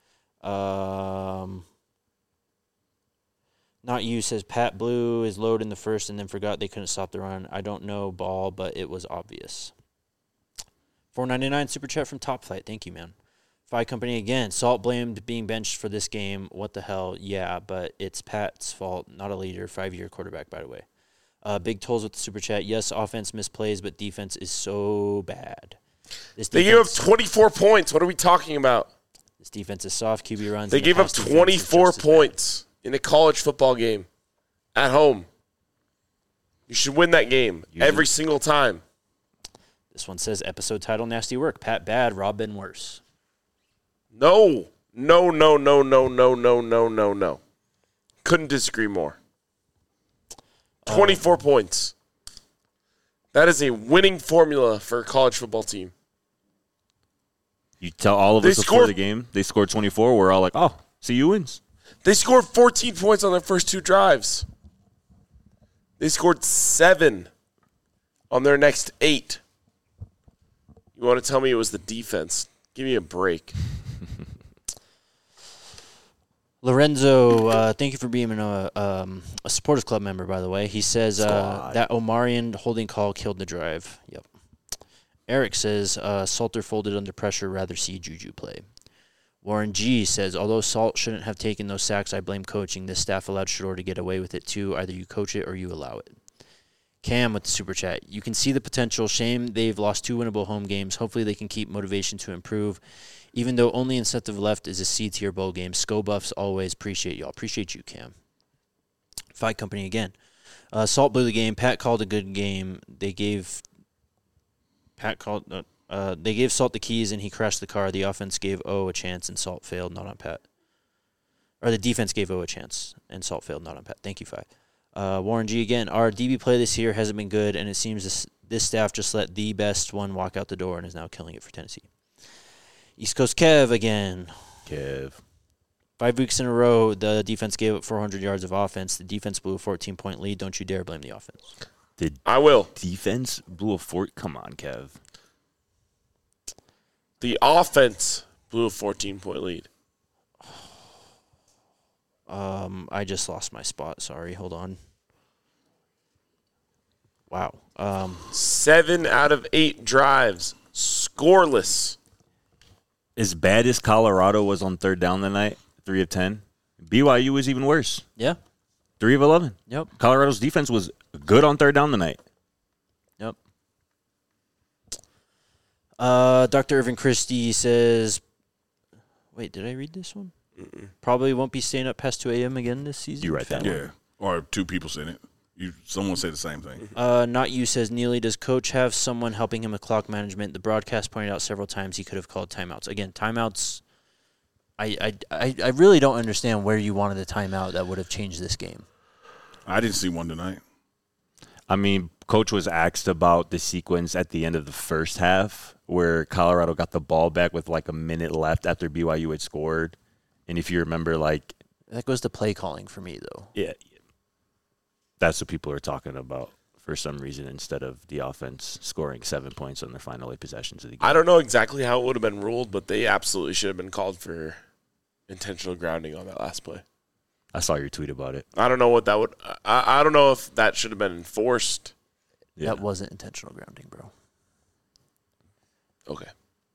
Not you says Pat blew his load in the first and then forgot they couldn't stop the run. I don't know ball, but it was obvious. $4.99 super chat from Top Flight. Thank you, man. Phi Company again. Salt blamed being benched for this game. What the hell? Yeah, but it's Pat's fault, not a leader. 5-year quarterback, by the way. Big Tolls with the super chat. Yes, offense misplays, but defense is so bad. They gave up 24 points. What are we talking about? This defense is soft. QB runs. They and the gave up pass defense is 24 just as bad. points in a college football game at home. You should win that game every single time. This one says episode title Nasty Work. Pat bad, Rob been worse. No. Couldn't disagree more. 24 points. That is a winning formula for a college football team. You tell all of They us before scored- the game, they scored 24. We're all like, oh, CU wins. They scored 14 points on their first 2 drives. They scored 7 on their next 8. You want to tell me it was the defense? Give me a break. Lorenzo, thank you for being a supporters club member, by the way. He says that Omarion holding call killed the drive. Yep. Eric says Salter folded under pressure, rather see Juju play. Warren G says, although Salt shouldn't have taken those sacks, I blame coaching. This staff allowed Shador to get away with it too. Either you coach it or you allow it. Cam with the super chat. You can see the potential. Shame they've lost 2 winnable home games. Hopefully they can keep motivation to improve. Even though only incentive left is a C-tier bowl game. Sco Buffs always appreciate y'all. Appreciate you, Cam. Fight Company again. Salt blew the game. Pat called a good game. They gave Salt the keys and he crashed the car. The offense gave O a chance and Salt failed, not on Pat. Or the defense gave O a chance and Salt failed, not on Pat. Thank you, Five. Warren G again. Our DB play this year hasn't been good, and it seems this staff just let the best one walk out the door and is now killing it for Tennessee. East Coast Kev again. Kev. 5 weeks in a row, the defense gave up 400 yards of offense. The defense blew a 14-point lead. Don't you dare blame the offense. I will. Defense blew a fort. Come on, Kev. The offense blew a 14-point lead. I just lost my spot. Sorry. Hold on. Wow. 7 out of 8 drives. Scoreless. As bad as Colorado was on third down tonight, 3 of 10, BYU was even worse. Yeah. 3 of 11. Yep. Colorado's defense was good on third down tonight. Yep. Dr. Irvin Christie says, wait, did I read this one? Probably won't be staying up past 2 a.m. again this season. You write that Fan. one. Yeah. Or 2 people said it. Someone said the same thing. Not you says, Neely, does coach have someone helping him with clock management? The broadcast pointed out several times he could have called timeouts. Again, timeouts, I really don't understand where you wanted a timeout that would have changed this game. I didn't see one tonight. I mean, coach was asked about the sequence at the end of the first half where Colorado got the ball back with like a minute left after BYU had scored. And if you remember, like... That goes to play calling for me, though. Yeah. That's what people are talking about for some reason instead of the offense scoring 7 points on their final 8 possessions of the game. I don't know exactly how it would have been ruled, but they absolutely should have been called for intentional grounding on that last play. I saw your tweet about it. I don't know what that would – I don't know if that should have been enforced. Yeah. That wasn't intentional grounding, bro. Okay.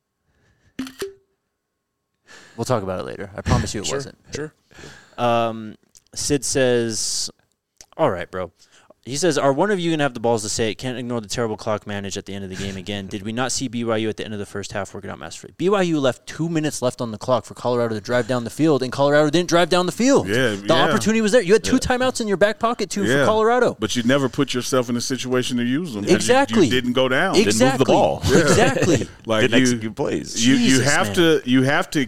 We'll talk about it later. I promise you it wasn't. Sure. Sid says, all right, bro. He says, are one of you going to have the balls to say it? Can't ignore the terrible clock manage at the end of the game again. Did we not see BYU at the end of the first half working out masterfully? BYU left 2 minutes left on the clock for Colorado to drive down the field, and Colorado didn't drive down the field. The opportunity was there. You had 2 timeouts in your back pocket, too, for Colorado. But you never put yourself in a situation to use them. Exactly. You didn't go down. Exactly. Didn't move the ball. Exactly. Like Didn't execute plays. You have to.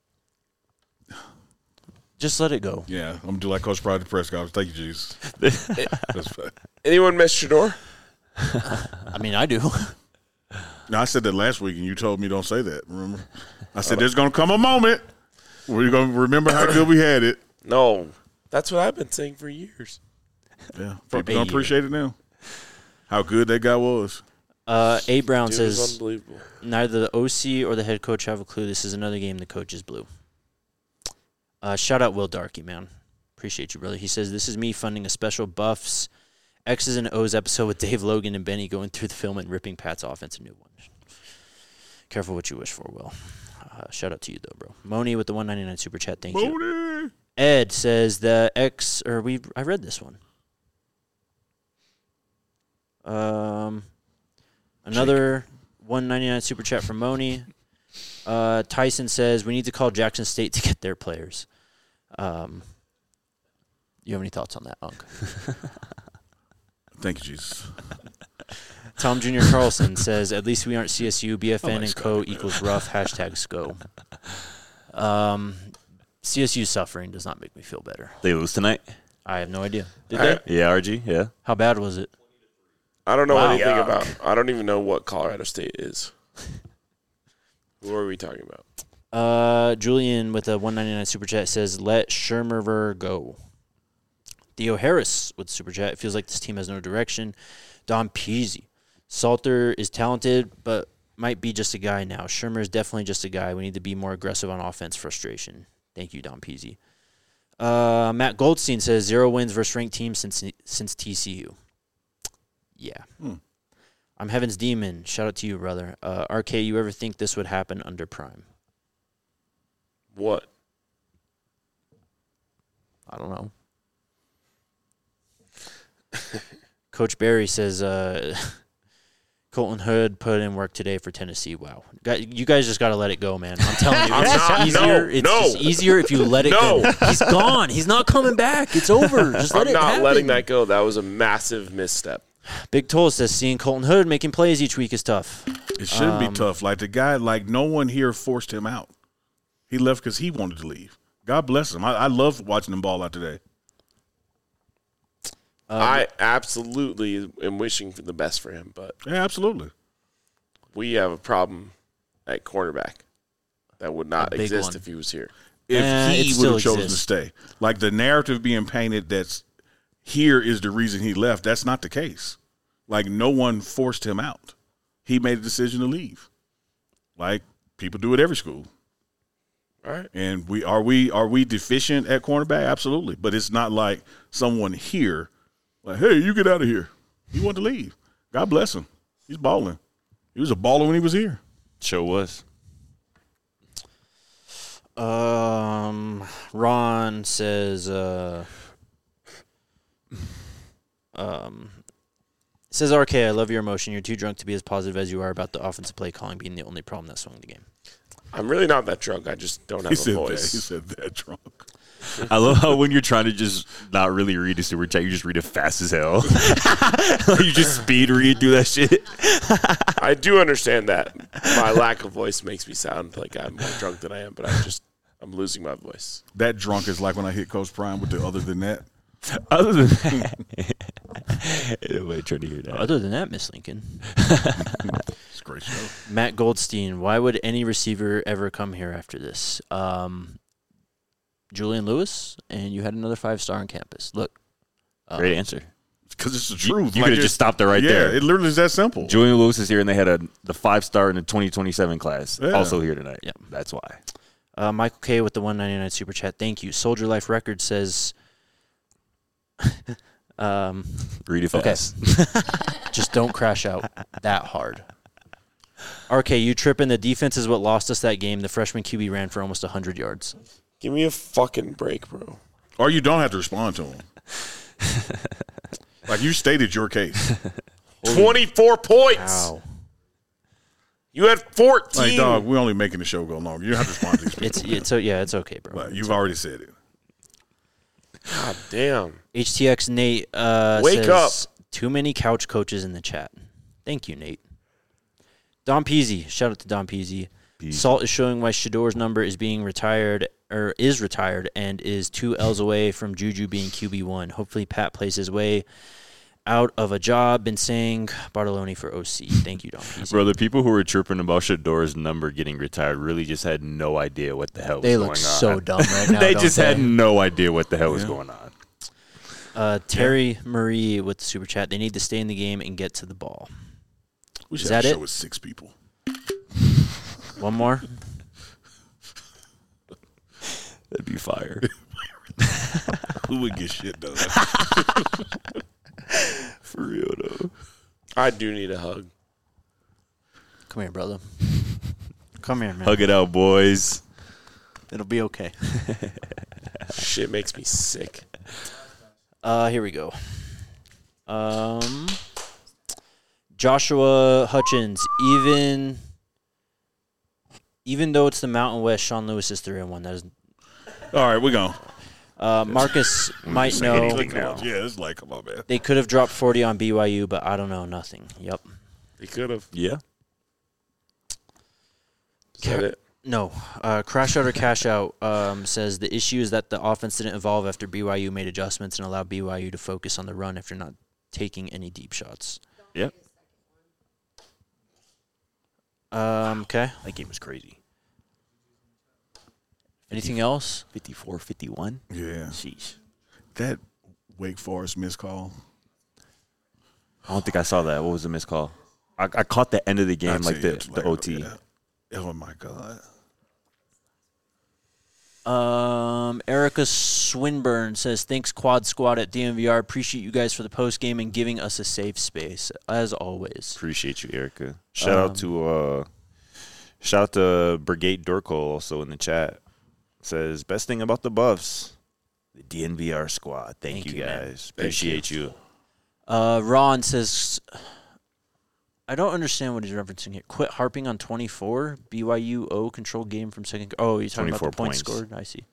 Just let it go. Yeah, I'm going to do like Coach Pride at the press conference. Thank you, Jesus. That's fine. Anyone miss Shador? I mean, I do. No, I said that last week, and you told me don't say that, remember? I said there's going to come a moment where you're going to remember how good we had it. No. That's what I've been saying for years. Yeah, people don't appreciate it now. How good that guy was. A. Brown Dude, it was says, unbelievable. neither the OC or the head coach have a clue. This is another game the coach is blue. Shout out Will Darkey, man. Appreciate you, brother. He says, this is me funding a special Buffs, X's and O's episode with Dave Logan and Benny going through the film and ripping Pat's offense a new one. Careful what you wish for, Will. Shout out to you, though, bro. Moni with the $1.99 super chat. Thank you. Ed says I read this one. Another $1.99 super chat from Moni. Tyson says, we need to call Jackson State to get their players. You have any thoughts on that, Unc? Thank you, Jesus. Tom Jr. Carlson says, at least we aren't CSU, BFN and co equals rough, #SCO. CSU suffering does not make me feel better. They lose tonight? I have no idea. Did they? Yeah, RG, yeah. How bad was it? I don't know anything about – I don't even know what Colorado State is. Who are we talking about? Julian with a $1.99 super chat says, let Shermer go. Theo Harris with the super chat. It feels like this team has no direction. Don Peasy. Salter is talented, but might be just a guy now. Shermer is definitely just a guy. We need to be more aggressive on offense. Frustration. Thank you, Don Peasy. Matt Goldstein says 0 wins versus ranked teams since TCU. Yeah. I'm Heaven's Demon. Shout out to you, brother. RK, you ever think this would happen under Prime? What? I don't know. Coach Barry says Colton Hood put in work today for Tennessee. Wow. You guys just got to let it go, man. I'm telling you. It's just easier if you let it go. He's gone. He's not coming back. It's over. Just let it happen. I'm not letting that go. That was a massive misstep. Big Toll says seeing Colton Hood making plays each week is tough. It shouldn't be tough. Like the guy, no one here forced him out. He left because he wanted to leave. God bless him. I love watching him ball out today. I absolutely am wishing for the best for him, but yeah, absolutely. We have a problem at cornerback that would not exist if he was here. If he would have chosen to stay. Like the narrative being painted that's here is the reason he left. That's not the case. Like no one forced him out. He made a decision to leave. Like people do at every school. All right. And are we deficient at cornerback? Absolutely. But it's not like someone here like, hey, you get out of here. He wanted to leave. God bless him. He's balling. He was a baller when he was here. Sure was. Ron says says RK, I love your emotion. You're too drunk to be as positive as you are about the offensive play calling being the only problem that swung the game. I'm really not that drunk. I just don't have a voice. He said that drunk. I love how when you're trying to just not really read a super chat, you just read it fast as hell. You just speed read through that shit. I do understand that. My lack of voice makes me sound like I'm more drunk than I am, but I'm losing my voice. That drunk is like when I hit Coach Prime with the other than that. Other than that, nobody trying to hear that. Other than that, Miss Lincoln. It's a great show. Matt Goldstein, why would any receiver ever come here after this? Julian Lewis, and you had another 5-star on campus. Look. Great answer. Because it's the truth. You could have just stopped it right there. Yeah, it literally is that simple. Julian Lewis is here, and they had the 5-star in the 2027 class also here tonight. Yeah. That's why. Michael K. with the 199 super chat. Thank you. Soldier Life Records says... Read it fast. Just don't crash out that hard. RK, you tripping. The defense is what lost us that game. The freshman QB ran for almost 100 yards. Give me a fucking break, bro. Or you don't have to respond to him. Like you stated your case. 24 points. Wow. You had 14. Like, dog, we're only making the show go longer. You don't have to respond to these people. It's okay, bro. But you've already said it. God damn. HTX Nate Wake says, up. Too many couch coaches in the chat. Thank you, Nate. Don Peasy. Shout out to Don Peasy. Salt is showing why Shador's number is being retired and is 2 L's away from Juju being QB1. Hopefully Pat plays his way out of a job. Been saying Bartoloni for OC. Thank you, Don Peasy. Bro, the people who were chirping about Shador's number getting retired really just had no idea what the hell was going on. They look so dumb right now. They just had no idea what the hell was going on. Terry Marie with the super chat. They need to stay in the game and get to the ball. We should Is have that a it? show with 6 people. One more? That'd be fire. Who would get shit done? For real, though. I do need a hug. Come here, brother. Come here, man. Hug it out, boys. It'll be okay. Shit makes me sick. Here we go. Joshua Hutchins, even though it's the Mountain West, Sean Lewis is 3-1. That is All right, we're going. Marcus might know. Yeah, it's like, come on, man. They could have dropped 40 on BYU, but I don't know. Nothing. Yep. They could have. Yeah. Is that it? No. Crash Out or Cash Out says the issue is that the offense didn't evolve after BYU made adjustments and allowed BYU to focus on the run after not taking any deep shots. Yep. Okay. That game was crazy. Anything else? 54-51? Yeah. Sheesh. That Wake Forest missed call. I don't think I saw that. What was the missed call? I caught the end of the game, I'd like say the it's like, OT. yeah. Oh, my God. Erica Swinburne says, thanks, Quad Squad at DMVR. Appreciate you guys for the post game and giving us a safe space, as always. Appreciate you, Erica. Shout out to Brigade Dorco also in the chat. Says, best thing about the Buffs, the DNVR squad. Thank you man. guys. Appreciate you. Ron says, I don't understand what he's referencing here. Quit harping on 24. BYU O control game from second. Oh, you're talking about the points scored? I see.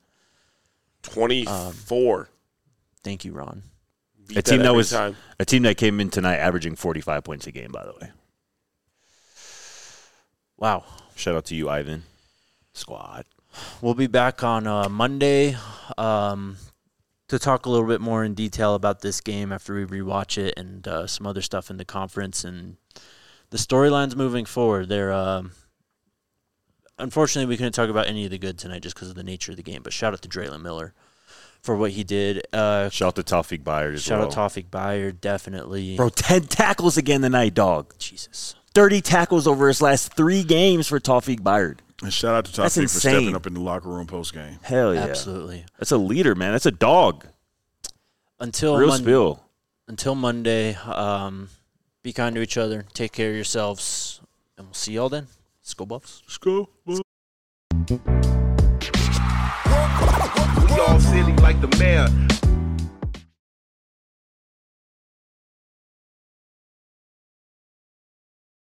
24. Thank you, Ron. Beat A team time. a team that came in tonight averaging 45 points a game, by the way. Wow. Shout out to you, Ivan. Squad. We'll be back on Monday to talk a little bit more in detail about this game after we rewatch it and some other stuff in the conference and the storylines moving forward. They're unfortunately we couldn't talk about any of the good tonight just because of the nature of the game. But shout out to Draylon Miller for what he did. Shout out to Tawfiq Byard as well. Shout out Tawfiq Byard, definitely. Bro, 10 tackles again tonight, dog. Jesus. 30 tackles over his last 3 games for Tawfiq Byard. And shout out to That's Tawfiq for insane. stepping up in the locker room post game. Hell yeah. Absolutely. That's a leader, man. That's a dog. Until Real spill. Until Monday, be kind to each other. Take care of yourselves. And we'll see y'all then. Let's go, Buffs. Let's go. We all silly like the mayor.